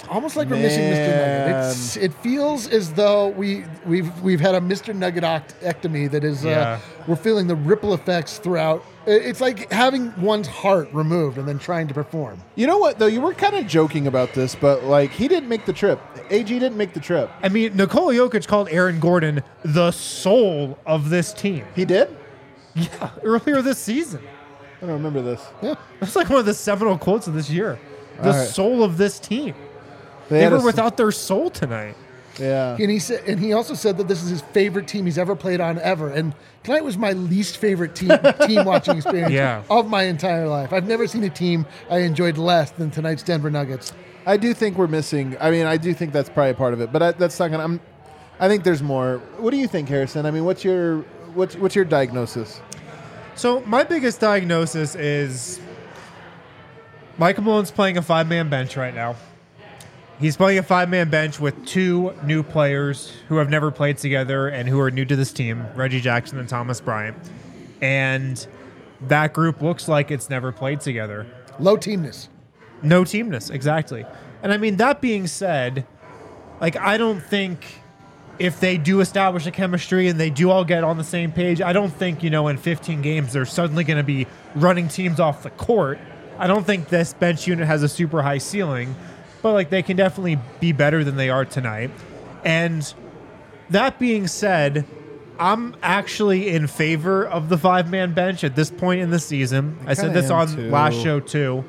almost like we're missing Mister Nugget. It's, it feels as though we we've we've had a Mister Nugget-ectomy that is uh, Yeah. we're feeling the ripple effects throughout. It's like having one's heart removed and then trying to perform. You know what, though? You were kind of joking about this, but, like, he didn't make the trip. A G didn't make the trip. I mean, Nikola Jokic called Aaron Gordon the soul of this team. He did? Yeah, earlier this season. I don't remember this. Yeah. That's like one of the seminal quotes of this year. The All right. soul of this team. They, They had were a s- without their soul tonight. Yeah. And he said, and he also said that this is his favorite team he's ever played on ever. And tonight was my least favorite team team watching experience Yeah. of my entire life. I've never seen a team I enjoyed less than tonight's Denver Nuggets. I do think we're missing. I mean, I do think that's probably a part of it, but I, that's not gonna. I'm. I think there's more. What do you think, Harrison? I mean, what's your what's what's your diagnosis? So my biggest diagnosis is Michael Malone's playing a five-man bench right now. He's playing a five-man bench with two new players who have never played together and who are new to this team, Reggie Jackson and Thomas Bryant. And that group looks like it's never played together. Low teamness. No teamness, exactly. And I mean, that being said, like, I don't think if they do establish a chemistry and they do all get on the same page, I don't think, you know, in fifteen games, they're suddenly going to be running teams off the court. I don't think this bench unit has a super high ceiling, but, like, they can definitely be better than they are tonight. And that being said, I'm actually in favor of the five-man bench at this point in the season. I, said kinda this am on too. last show, too.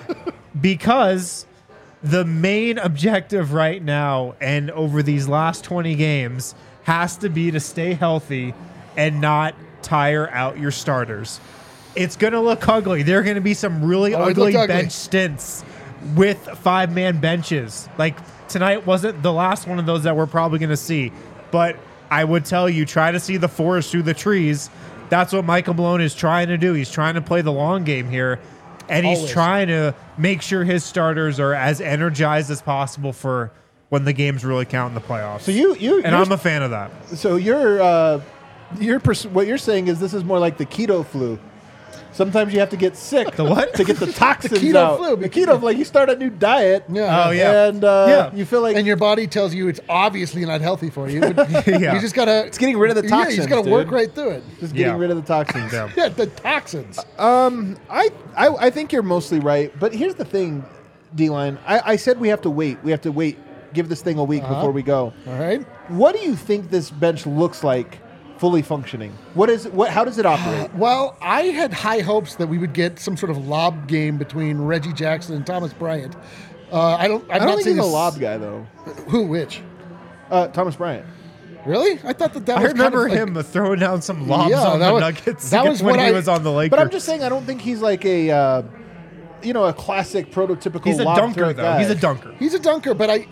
Because the main objective right now and over these last twenty games has to be to stay healthy and not tire out your starters. It's going to look ugly. There are going to be some really Oh, it ugly looked ugly. bench stints with five-man benches. Like, tonight wasn't the last one of those that we're probably going to see. But I would tell you, try to see the forest through the trees. That's what Michael Malone is trying to do. He's trying to play the long game here. And he's Always. trying to make sure his starters are as energized as possible for when the games really count in the playoffs. So you you and you're- I'm a fan of that. so you're uh, you're pers- what you're saying is this is more like the keto flu. Sometimes you have to get sick. The what? To get the toxins keto out. flu. The keto flu. Like you start a new diet. Yeah. Oh, yeah. And uh, Yeah. you feel like And your body tells you it's obviously not healthy for you. But Yeah. You just gotta. It's getting rid of the Yeah, you toxins, just gotta dude. work right through it. just getting Yeah. rid of the toxins. Yeah. Yeah, the toxins. Um, I, I I think you're mostly right, but here's the thing, D-Line. I, I said we have to wait. We have to wait. Give this thing a week Uh-huh. before we go. All right. What do you think this bench looks like, fully functioning? What is what? How does it operate? Well, I had high hopes that we would get some sort of lob game between Reggie Jackson and Thomas Bryant. Uh, I don't. I'm I don't not think saying he's a this- lob guy though. Who? Which? Uh, Thomas Bryant. Really? I thought that that I was remember kind of like, him throwing down some lobs Yeah, on that the was- Nuggets that was when what he I- was on the Lakers. But I'm just saying, I don't think he's like a, uh, you know, a classic prototypical. He's a lob dunker, threat though. guy. He's a dunker. He's a dunker, but I,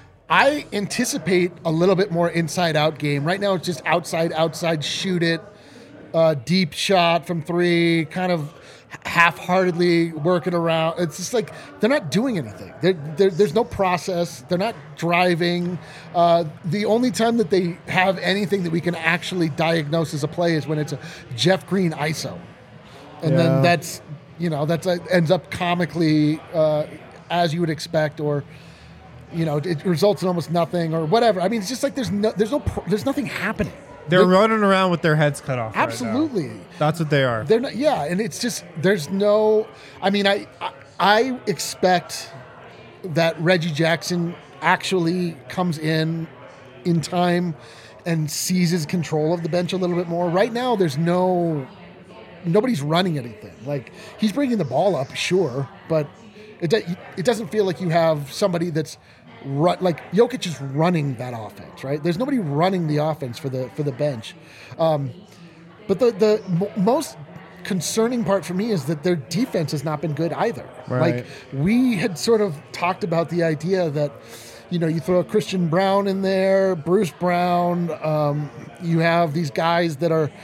I anticipate a little bit more inside-out game. Right now, it's just outside, outside, shoot it, uh, deep shot from three, kind of half-heartedly working around. It's just like they're not doing anything. They're, they're, there's no process. They're not driving. Uh, the only time that they have anything that we can actually diagnose as a play is when it's a Jeff Green I S O, and Yeah. then that's you know that's uh, ends up comically uh, as you would expect, or you know it results in almost nothing or whatever. I mean, it's just like there's no there's no pro- there's nothing happening. They're running around with their heads cut off. right now. Absolutely. That's what they are. They're not, yeah, and it's just there's no. I mean, I I, I expect that Reggie Jackson actually comes in in time and seizes control of the bench a little bit more. Right now, there's no nobody's running anything. Like he's bringing the ball up, sure, but it do- it doesn't feel like you have somebody that's. Run, like Jokic is running that offense, right? There's nobody running the offense for the for the bench. Um, but the the m- most concerning part for me is that their defense has not been good either. Right. Like we had sort of talked about the idea that you know you throw a Christian Brown in there, Bruce Brown. Um, you have these guys that are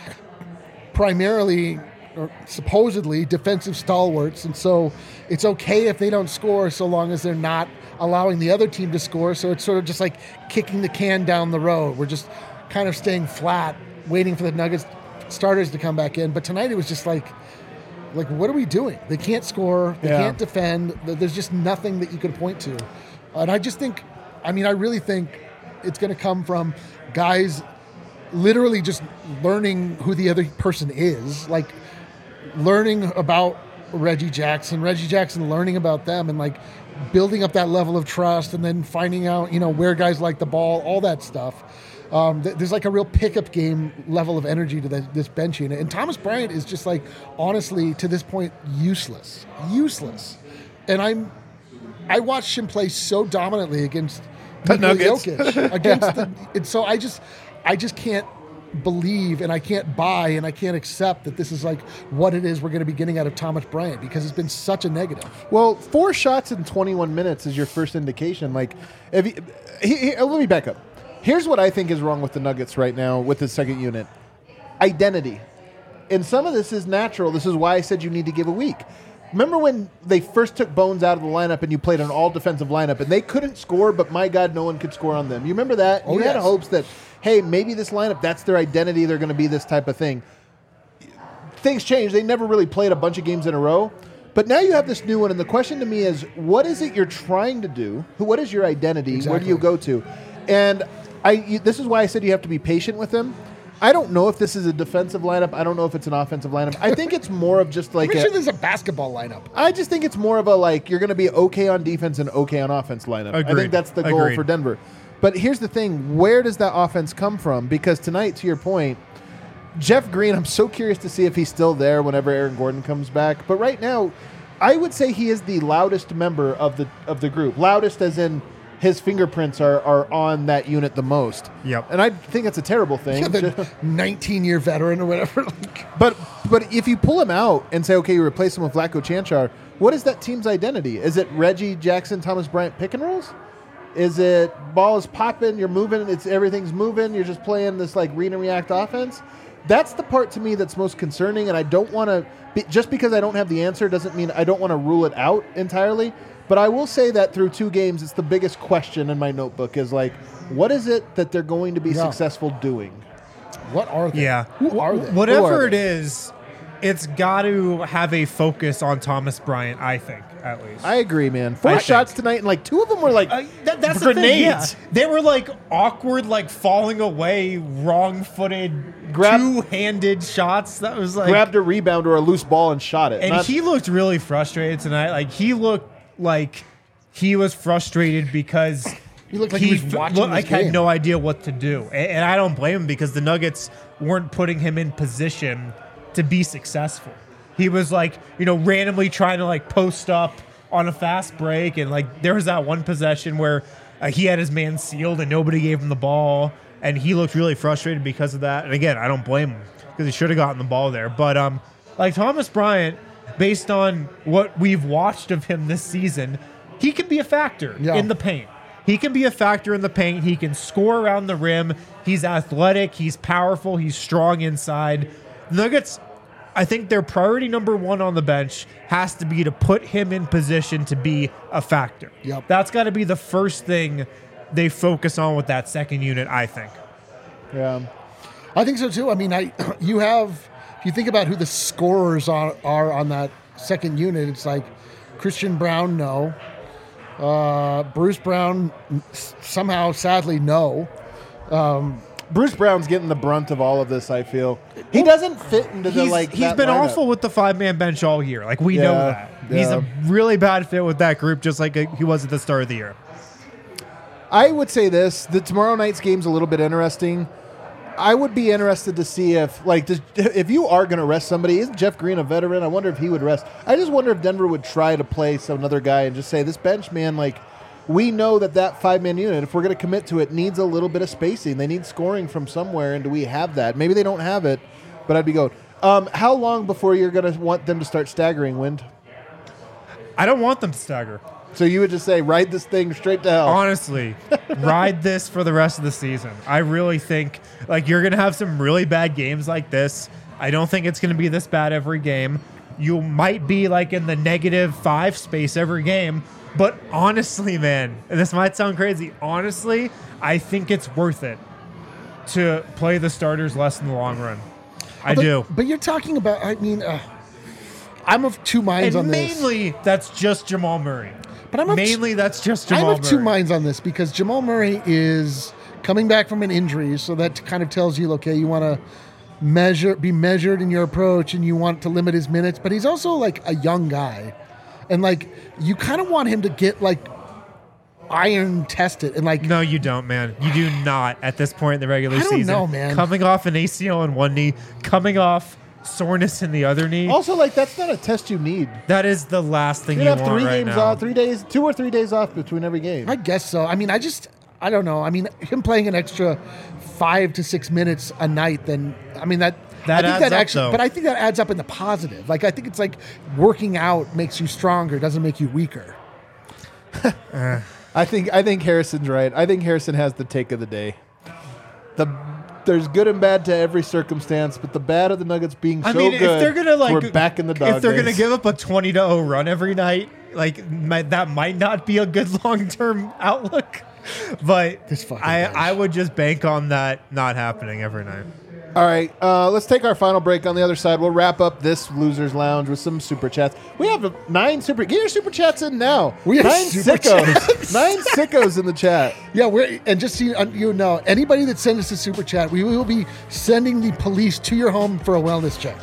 primarily or supposedly defensive stalwarts, and so it's okay if they don't score so long as they're not allowing the other team to score. So it's sort of just like kicking the can down the road. We're just kind of staying flat, waiting for the Nuggets starters to come back in. But tonight it was just like, like what are we doing? They can't score. They Yeah. can't defend. There's just nothing that you could point to. And I just think, I mean, I really think it's going to come from guys literally just learning who the other person is, like learning about Reggie Jackson, Reggie Jackson learning about them, and like building up that level of trust, and then finding out, you know, where guys like the ball, all that stuff. Um, th- there's like a real pickup game level of energy to the, this bench unit. And Thomas Bryant is just like, honestly, to this point, useless. Useless. And I'm, I watched him play so dominantly against The Nikola Nuggets. Jokic. Against the, and so I just, I just can't believe and I can't buy and I can't accept that this is like what it is we're going to be getting out of Thomas Bryant, because it's been such a negative. Well, four shots in twenty-one minutes is your first indication. Like, if you, he, he, let me back up. Here's what I think is wrong with the Nuggets right now with the second unit. Identity. And some of this is natural. This is why I said you need to give a week. Remember when they first took Bones out of the lineup and you played an all-defensive lineup and they couldn't score, but my God, no one could score on them. You remember that? Oh, you yes. had hopes that, hey, maybe this lineup, that's their identity. They're going to be this type of thing. Things change. They never really played a bunch of games in a row. But now you have this new one, and the question to me is, what is it you're trying to do? Who- What is your identity? Where do Exactly. you go to? And I. You, this is why I said you have to be patient with them. I don't know if this is a defensive lineup. I don't know if it's an offensive lineup. I think it's more of just like I'm a, sure there's a basketball lineup. I just think it's more of a like you're going to be okay on defense and okay on offense lineup. I Agreed. think that's the goal Agreed. for Denver. But here's the thing: where does that offense come from? Because tonight, to your point, Jeff Green, I'm so curious to see if he's still there whenever Aaron Gordon comes back. But right now, I would say he is the loudest member of the of the group. Loudest as in his fingerprints are, are on that unit the most. Yep. And I think that's a terrible thing. Yeah, the nineteen-year veteran or whatever. Like, But but if you pull him out and say, okay, you replace him with Vlatko Chanchar, what is that team's identity? Is it Reggie Jackson, Thomas Bryant pick and rolls? Is it ball is popping, you're moving, it's everything's moving, you're just playing this like read and react offense? That's the part to me that's most concerning, and I don't want to be, just because I don't have the answer doesn't mean I don't want to rule it out entirely. But I will say that through two games, it's the biggest question in my notebook is like, what is it that they're going to be Yeah. successful doing? what are they? Yeah. Who are they? Whatever Who are it they? is, it's got to have a focus on Thomas Bryant, I think, at least. I agree, man. Four I shots think. tonight, and like two of them were like Uh, that, that's grenades. the thing, yeah. They were like awkward, like falling away, wrong-footed, Grab- two-handed shots. That was like, Grabbed a rebound or a loose ball and shot it. and Not- he looked really frustrated tonight. Like he looked like he was frustrated because He looked like he was f- watching looked this like had game. no idea what to do, and, and I don't blame him because the Nuggets weren't putting him in position to be successful. He was like, you know, randomly trying to like post up on a fast break, and like there was that one possession where uh, he had his man sealed and nobody gave him the ball, and he looked really frustrated because of that. And again, I don't blame him because he should have gotten the ball there. But um, like Thomas Bryant, based on what we've watched of him this season, he can be a factor Yeah. in the paint. He can be a factor in the paint. He can score around the rim. He's athletic. He's powerful. He's strong inside. The Nuggets, I think their priority number one on the bench has to be to put him in position to be a factor. Yep. That's got to be the first thing they focus on with that second unit, I think. yeah. I think so too. I mean, I you have if you think about who the scorers are, are on that second unit, it's like Christian Brown, no. Uh, Bruce Brown, s- somehow, sadly, no. Bruce Brown's getting the brunt of all of this, I feel. He doesn't fit into the He's, like he's that been lineup. awful with the five-man bench all year. Like, we know Yeah, that. He's yeah. a really bad fit with that group, just like he was at the start of the year. I would say this: the tomorrow night's game's a little bit interesting. I would be interested to see if, like, does, if you are going to rest somebody, isn't Jeff Green a veteran? I wonder if he would rest. I just wonder if Denver would try to play some another guy and just say, this bench, man, like, we know that that five-man unit, if we're going to commit to it, needs a little bit of spacing. They need scoring from somewhere, and do we have that? Maybe they don't have it, but I'd be going. Um, how long before you're going to want them to start staggering, Wind? I don't want them to stagger. So you would just say, ride this thing straight to hell. Honestly, ride this for the rest of the season. I really think like you're going to have some really bad games like this. I don't think it's going to be this bad every game. You might be like in the negative five space every game. But honestly, man, and this might sound crazy. Honestly, I think it's worth it to play the starters less in the long run. I but, do. But you're talking about, I mean, uh, I'm of two minds And on this. mainly, that's just Jamal Murray. But I'm of mainly that's just I'm Jamal of two Murray. minds on this because Jamal Murray is coming back from an injury, so that kind of tells you, okay, you want to measure, be measured in your approach, and you want to limit his minutes. But he's also like a young guy, and like you kind of want him to get like iron tested and like. No, you don't, man. You do not at this point in the regular I don't season. know, man. Coming off an A C L in one knee, coming off soreness in the other knee. Also, like that's not a test you need. That is the last thing You you have want three right games now. off, three days, two or three days off between every game. I guess so. I mean, I just, I don't know. I mean, him playing an extra five to six minutes a night, then I mean that. That I think adds that up, actually, though. but I think that adds up in the positive. Like I think it's like working out makes you stronger, doesn't make you weaker. I think I think Harrison's right. I think Harrison has the take of the day. The there's good and bad to every circumstance, but the bad of the Nuggets being I so mean, good, if they're gonna like, we're back in the dog if they're days. gonna give up a twenty to oh run every night, like might, that might not be a good long term outlook. But This fucking I, bunch. I would just bank on that not happening every night. All right, uh, let's take our final break. On the other side, we'll wrap up this Losers Lounge with some super chats. We have uh, nine super. Get your super chats in now. We have nine super sickos. chats. Nine sickos in the chat. Yeah, we're and just so you, you know, anybody that sends us a super chat, we will be sending the police to your home for a wellness check.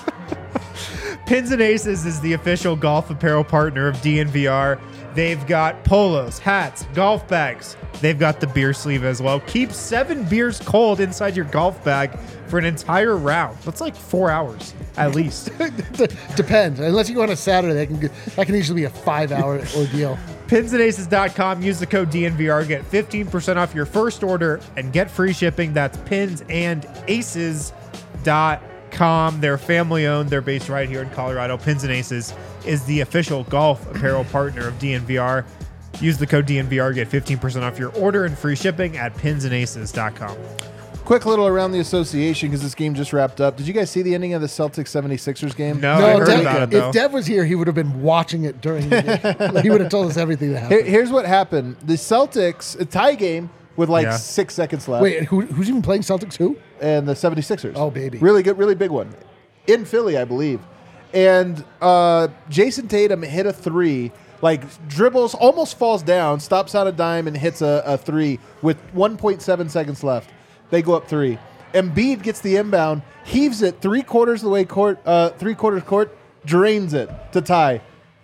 Pins and Aces is the official golf apparel partner of D N V R. They've got polos, hats, golf bags. They've got the beer sleeve as well. Keep seven beers cold inside your golf bag for an entire round. That's like four hours at least. Depends. Unless you go on a Saturday, that can get, that can usually be a five-hour ordeal. pins and aces dot com. Use the code D N V R. Get fifteen percent off your first order and get free shipping. That's pins and aces dot com. They're family owned. They're based right here in Colorado. Pins and Aces is the official golf apparel partner of D N V R. Use the code D N V R. Get fifteen percent off your order and free shipping at pins and aces dot com. Quick little around the association because this game just wrapped up. Did you guys see the ending of the Celtics seventy-sixers game? No, I No, heard Dev, about it though. if Dev was here, he would have been watching it during the game. Like, he would have told us everything that Here- happened. here's what happened. The Celtics, a tie game with like Yeah. six seconds left. Wait, who, who's even playing Celtics? Who? And the seventy-sixers. Oh, baby. Really good, really big one. In Philly, I believe. And uh, Jason Tatum hit a three, like dribbles, almost falls down, stops on a dime, and hits a, a three with one point seven seconds left. They go up three. Embiid gets the inbound, heaves it three quarters of the way court, uh, three quarters court, drains it to tie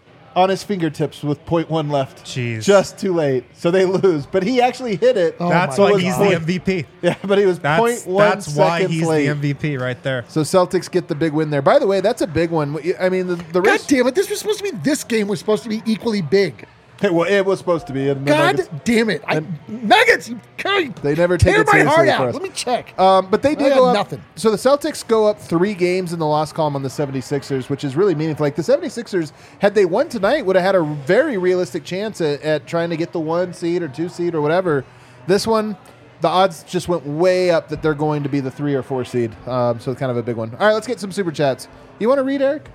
on his fingertips with point one left. Jeez. Just too late. So they lose. But he actually hit it. Oh That's my why God. he's the M V P. Yeah, but he was That's, point one that's why seconds he's late. the M V P right there. So Celtics get the big win there. By the way, that's a big one. I mean, the, the God rest. damn it. This was supposed to be, this game was supposed to be equally big. It, well, it was supposed to be. And the God Nuggets- damn it. I, Nuggets, you can't. They never take tear it my seriously heart for out. us. Let me check. Um, but they I did got go up. nothing. So the Celtics go up three games in the loss column on the seventy-sixers, which is really meaningful. Like the seventy-sixers, had they won tonight, would have had a very realistic chance at, at trying to get the one seed or two seed or whatever. This one, the odds just went way up that they're going to be the three or four seed. Um, so it's kind of a big one. All right, let's get some super chats. You want to read, Eric?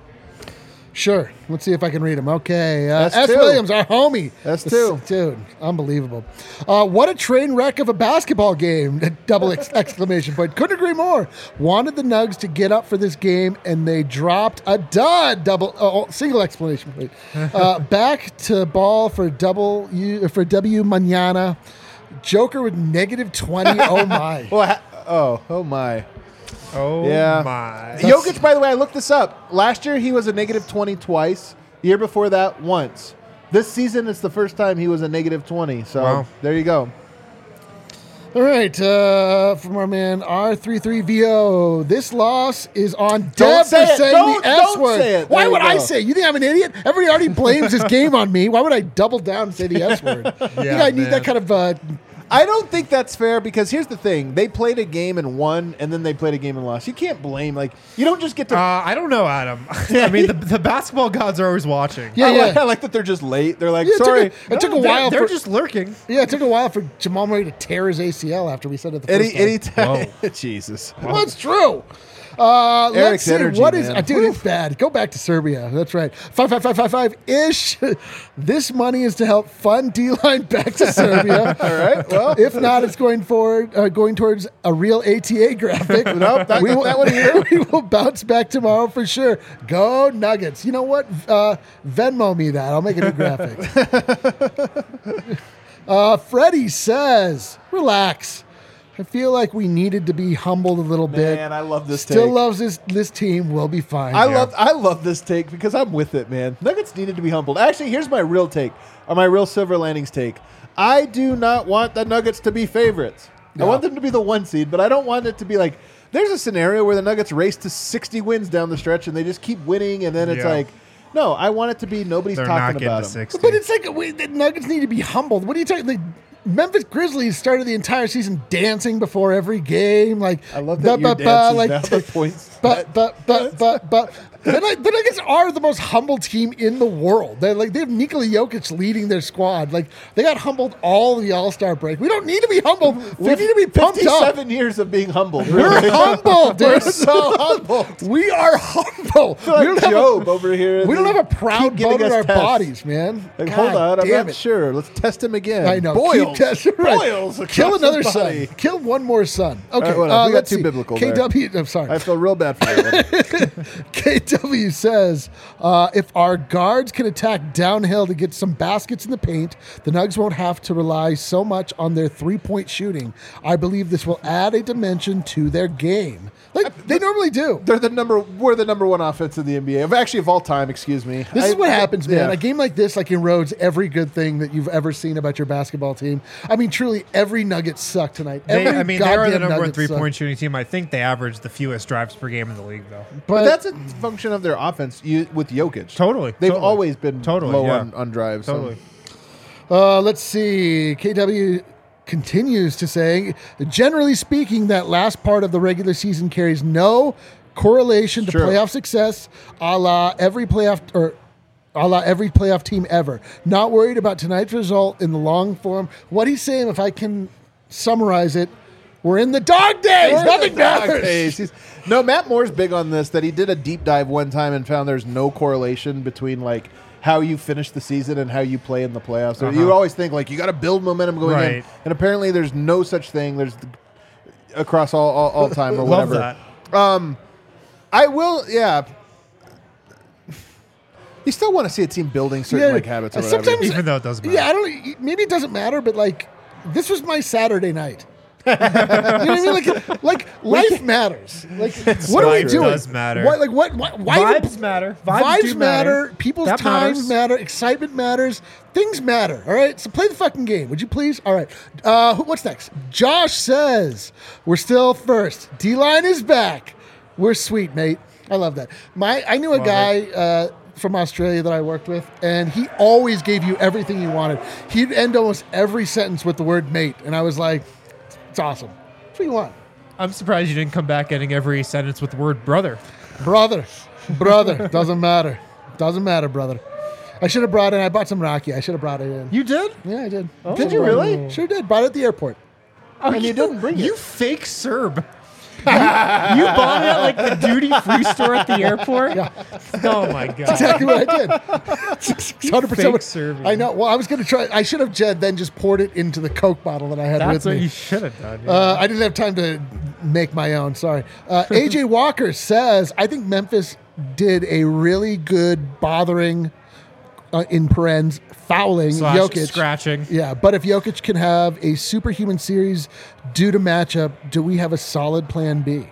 Sure. Let's see if I can read them. Okay. Uh, S S. two. Williams, our homie. S two. Dude, unbelievable. Uh, what a train wreck of a basketball game. Double ex- exclamation point. Couldn't agree more. Wanted the Nugs to get up for this game, and they dropped a dud. Double, uh, single exclamation point. Uh, back to ball for double U, for W Manana. Joker with negative twenty. Oh, my. Well, ha- oh, oh my. Oh Yeah. my. Jokic, by the way, I looked this up. Last year, he was a negative twenty twice. The year before that, once. This season, it's the first time he was a negative twenty. So Wow. there you go. All right, uh, from our man R thirty-three V O. This loss is on Don't Dev say for it. saying Don't- the S don't word. say it. Why There would you I go. say? You think I'm an idiot? Everybody already blames this game on me. Why would I double down and say the S word? I think I need man. that kind of. Uh, I don't think that's fair because here's the thing. They played a game and won, and then they played a game and lost. You can't blame. Like, you don't just get to. Uh, I don't know, Adam. I mean, the, the basketball gods are always watching. Yeah, I, like, yeah. I like that they're just late. They're like, Yeah, it took sorry. a- it took a They're- while They're for- just lurking. yeah, it took a while for Jamal Murray to tear his A C L after we said it the first Any time. any time. Jesus. Well, it's true. Uh, let's Eric's see. energy, What is, man. uh, dude, it's bad. Go back to Serbia. That's right. Five, five, five, five, five ish. This money is to help fund D-line back to Serbia. All right. Well, If not, it's going forward, uh, going towards a real A T A graphic. Nope, that- we will, that one here. we will bounce back tomorrow for sure. Go Nuggets. You know what? Uh, Venmo me that. I'll make a new graphic. uh, Freddie says, relax. I feel like we needed to be humbled a little bit. man, I love this Still take. loves this this team. We'll be fine. I love I love this take because I'm with it, man. Nuggets needed to be humbled. Actually, here's my real take, or my real Silver Landings take. I do not want the Nuggets to be favorites. No. I want them to be the one seed, but I don't want it to be like there's a scenario where the Nuggets race to sixty wins down the stretch and they just keep winning, and then it's Yeah. like, no, I want it to be nobody's They're not talking getting about to them. sixty. But it's like we, the Nuggets need to be humbled. What are you talking? The Memphis Grizzlies started the entire season dancing before every game. Like I love that ba, your ba, dance ba, is like now the points. But but but but but the, Nug- the Nuggets are the most humble team in the world. They're like they have Nikola Jokic leading their squad. Like they got humbled all the All Star break. We don't need to be humbled. We need to be pumped up. fifty-seven years of being humbled. We're Really. humble, dude. We're so humbled. We are humble. I feel like we don't have a- Job over here. We don't have a Keep proud giving bone in us our tests. bodies, man. Like, God hold on, I'm damn not it. sure. Let's test him again. I know. Boils. Keep testing. Right. Boils Kill across another his body. son. Kill one more son. Okay. right, whatever. uh, We got let's too see. biblical there. K W. I'm sorry. I feel real bad for that. K W says, uh, if our guards can attack downhill to get some baskets in the paint, the Nugs won't have to rely so much on their three-point shooting. I believe this will add a dimension to their game. Like they normally do. They're the number. We're the number one offense in the N B A. Of actually of all time. Excuse me. This I- is what happens, man. yeah. A game like this, like erodes every good thing that you've ever seen about your basketball team. I mean, truly, every Nugget sucked tonight. They, Every I mean, they are the goddamn number one Nugget three sucked. point shooting team. I think they average the fewest drives per game in the league, though. But, But that's a function of their offense you, with Jokic. Totally. They've totally. always been Totally, low yeah. on, on drives. so- Totally. Uh, let's see. K W continues to say, generally speaking, that last part of the regular season carries no correlation to Sure. playoff success, a la every playoff or a la every playoff team ever. Not worried about tonight's result in the long form. What he's saying, if I can summarize it, we're in the dog days. We're in Nothing the dog matters. days. He's- No, Matt Moore's big on this. That he did a deep dive one time and found there's no correlation between like how you finish the season and how you play in the playoffs. So Uh-huh. you always think like you got to build momentum going in, Right. and apparently there's no such thing. There's across all all, all time or Love whatever. that. Um, I will. Yeah. You still want to see a team building certain Yeah, like habits or uh, whatever. sometimes- Even though it doesn't matter. Yeah, I don't. Maybe it doesn't matter, but like, this was my Saturday night. You know what I mean? Like, like life matters. Like, what are we Life doing? does matter. What, like, what? Why? why Vibes matter. Vibes, Vibes, do matter. matter. People's That times matters. matter. Excitement matters. Things matter. All right. So play the fucking game, would you please? All right. Uh, who- what's next? Josh says we're still first. D line is back. We're sweet, mate. I love that. My I knew a Love guy. Uh, from Australia that I worked with, and he always gave you everything you wanted. He'd end almost every sentence with the word mate, and I was like, it's awesome. That's what you want. I'm surprised you didn't come back ending every sentence with the word brother. Brother. Brother. Doesn't matter. Doesn't matter, brother. I should have brought in, I bought some Rocky. I should have brought it in. You did? Yeah, I did. Did you really? Sure did. Bought it at the airport. Oh, And you didn't bring it. You fake Serb. you, you bought it at like the duty free store at the airport? Yeah. Oh my god. Exactly what I did. one hundred percent fake what- Serbian. I know. Well, I was going to try. I should have Jed then just poured it into the Coke bottle that I had That's with what me. you should have done. yeah. Uh, I didn't have time to make my own. Sorry. Uh, A J Walker says, I think Memphis did a really good bothering, uh, in parens, fouling Slash Jokic. scratching. Yeah, but if Jokic can have a superhuman series due to matchup, do we have a solid plan B?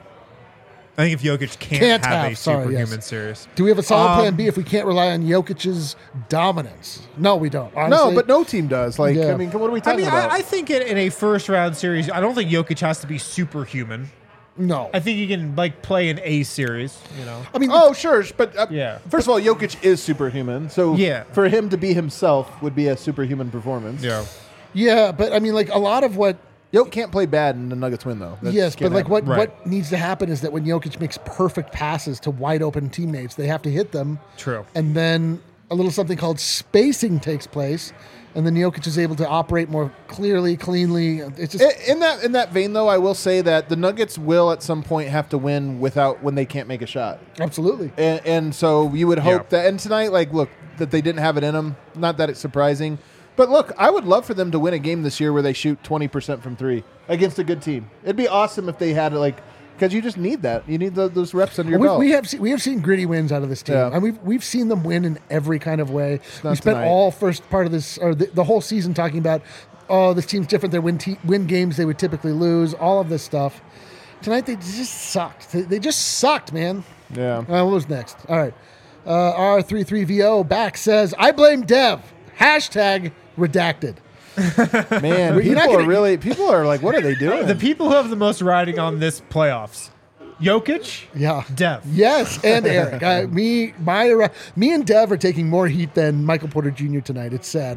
I think if Jokic can't, Can't have, have, a sorry, superhuman yes. series. Do we have a solid Um, plan B if we can't rely on Jokic's dominance? No, we don't. No, Honestly. but no team does. Like, Yeah. I mean, what are we I talking mean, about? I, I think in, in a first round series, I don't think Jokic has to be superhuman. no. I think he can like play an A series. You know. I mean, Oh, sure, but uh, Yeah. First of all, Jokic is superhuman, so Yeah. for him to be himself would be a superhuman performance. Yeah. yeah, but I mean, like a lot of what Jokic can't play bad and the Nuggets win though. That yes, just can't but like happen. what, Right. what needs to happen is that when Jokic makes perfect passes to wide open teammates, they have to hit them. True. And then a little something called spacing takes place. and then Jokic is able to operate more clearly, cleanly. It's just In in that in that vein, though, I will say that the Nuggets will at some point have to win without when they can't make a shot, absolutely. and, and so you would hope Yeah. that. And tonight, like, look, that they didn't have it in them. Not that it's surprising, but look, I would love for them to win a game this year where they shoot twenty percent from three against a good team. It'd be awesome if they had like. Because you just need that. You need the, those reps under your we, belt. we have seen, we have seen gritty wins out of this team, Yeah. and we've we've seen them win in every kind of way. not We spent tonight. all first part of this or the, the whole season talking about, oh, this team's different. They win te- win games they would typically lose. All of this stuff. Tonight they just sucked. They, they just sucked, man. yeah. Uh, what was next? All right, uh, R thirty-three V O back says I blame Dev. Hashtag redacted. Man, You're people not are gonna- really people are like, what are they doing? The people who have the most riding on this playoffs: Jokic, Yeah. Dev. Yes, and Eric. uh, me, my, me, and Dev are taking more heat than Michael Porter Junior tonight. It's sad.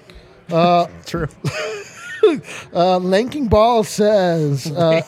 True. Uh, Lanking Ball says, uh,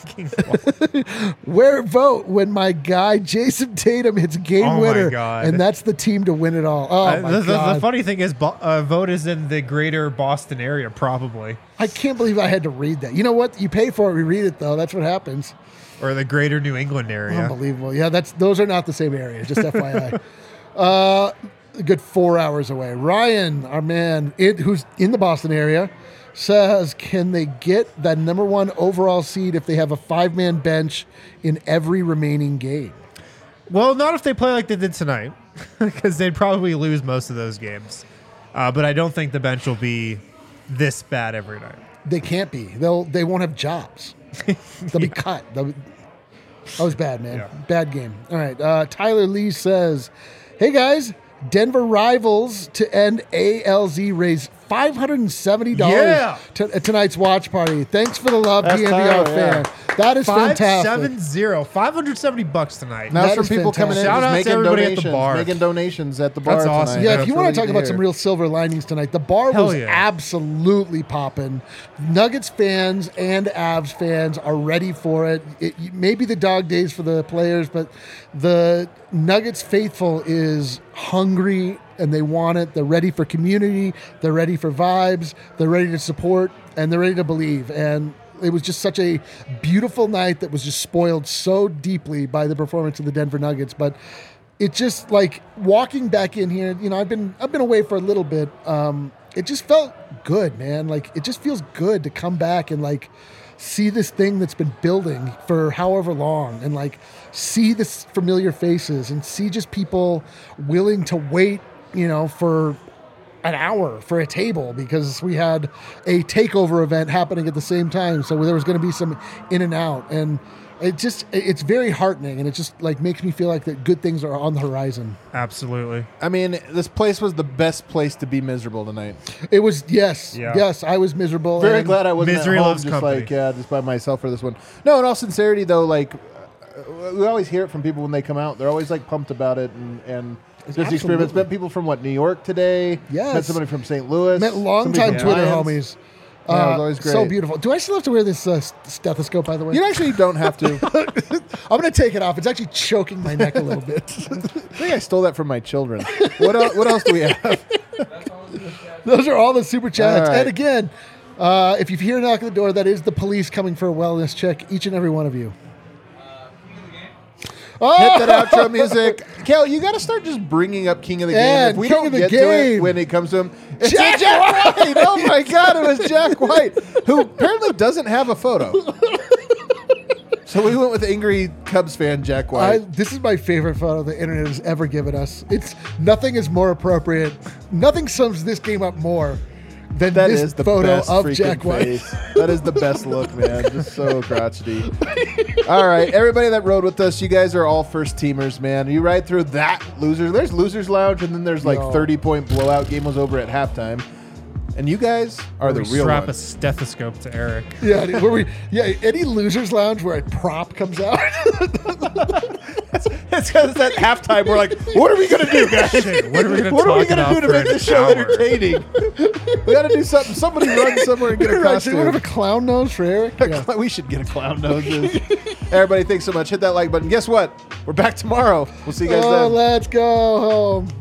"Where vote when my guy Jason Tatum hits a game Oh my winner, God. and that's the team to win it all." Oh Uh, my the, the- god! the funny thing is, Bo- uh, vote is in the greater Boston area, probably, I can't believe I had to read that. You know what? You pay for it, we read it though. That's what happens. or the greater New England area. Unbelievable. Yeah, that's those are not the same area. Just F Y I. Uh, a good four hours away. Ryan, our man, it, who's in the Boston area, says, "Can they get that number one overall seed if they have a five-man bench in every remaining game?" Well, not if they play like they did tonight, because they'd probably lose most of those games. Uh, but I don't think the bench will be this bad every night. They can't be. They'll. They won't have jobs. They'll be cut. They'll be, that was bad, man. Yeah. Bad game. All right. Uh, Tyler Lee says, "Hey guys, Denver rivals to end A L Z raise five hundred seventy dollars Yeah. to, at tonight's watch party. Thanks for the love, That's D N V R Tyler, fan. yeah. That is Five fantastic. seven zero, five hundred seventy bucks tonight. Now it's That from is people coming in fantastic. Shout just out to making everybody at the donations, bar. making donations at the bar That's awesome. tonight. Yeah, Yeah, if you it's want really to talk good about hear. some real silver linings tonight, the bar Hell was yeah. absolutely popping. Nuggets fans and Avs fans are ready for it. It maybe the dog days for the players, but the Nuggets faithful is hungry and they want it. They're ready for community. They're ready for vibes. They're ready to support and they're ready to believe. And it was just such a beautiful night that was just spoiled so deeply by the performance of the Denver Nuggets. But it just like walking back in here, you know, I've been I've been away for a little bit. Um, it just felt good, man. Like it just feels good to come back and like see this thing that's been building for however long and like see this familiar faces and see just people willing to wait, you know, for an hour for a table because we had a takeover event happening at the same time. So there was going to be some in and out, and it just, it's very heartening. And it just like makes me feel like that good things are on the horizon. Absolutely. I mean, this place was the best place to be miserable tonight. It was, yes, Yeah. yes, I was miserable. Very and glad I wasn't Misery at home loves just company. like yeah, just by myself for this one. No, in all sincerity though, like uh, we always hear it from people when they come out. They're always like pumped about it and and just the experience. Absolutely. Met people from what New York today. Yes. Met somebody from Saint Louis. Met longtime somebody from Twitter Lions. homies. Yeah, it was Uh, always great. So beautiful. Do I still have to wear this uh, stethoscope, by the way? You actually don't have to. I'm going to take it off. It's actually choking my neck a little bit. I think I stole that from my children. What else, what else do we have? Those are all the super chats. All right. And again, uh, if you hear a knock at the door, that is the police coming for a wellness check, each and every one of you. Oh! Hit that outro music. Kel, you got to start just bringing up King of the Game. And If we King don't of the get to it Game. when it comes to him, it's Jack Jack White. Oh my God, it was Jack White, who apparently doesn't have a photo. So we went with angry Cubs fan Jack I, White. this is my favorite photo the internet has ever given us. It's nothing is more appropriate. Nothing sums this game up more than That this is the photo best of freaking Jack White. face. That is the best look, man. Just so crotchety. All right, everybody that rode with us, you guys are all first teamers, man. You ride through that loser. There's losers lounge, and then there's like Yo. thirty point blowout. Game was over at halftime, and you guys are the We real strap a ones. stethoscope to Eric. Yeah, dude, where we yeah, any losers lounge where a prop comes out. It's because it's at halftime. We're like, what are we gonna do, guys? Shit, what are we gonna What are we talk gonna about do to for make an this show hour? entertaining? We got to do something. Somebody run somewhere and get a Right, so costume. what have a clown nose for Eric? Yeah. We should get a clown noses. Everybody, thanks so much. Hit that like button. Guess what? We're back tomorrow. We'll see you guys Oh, then. let's go home.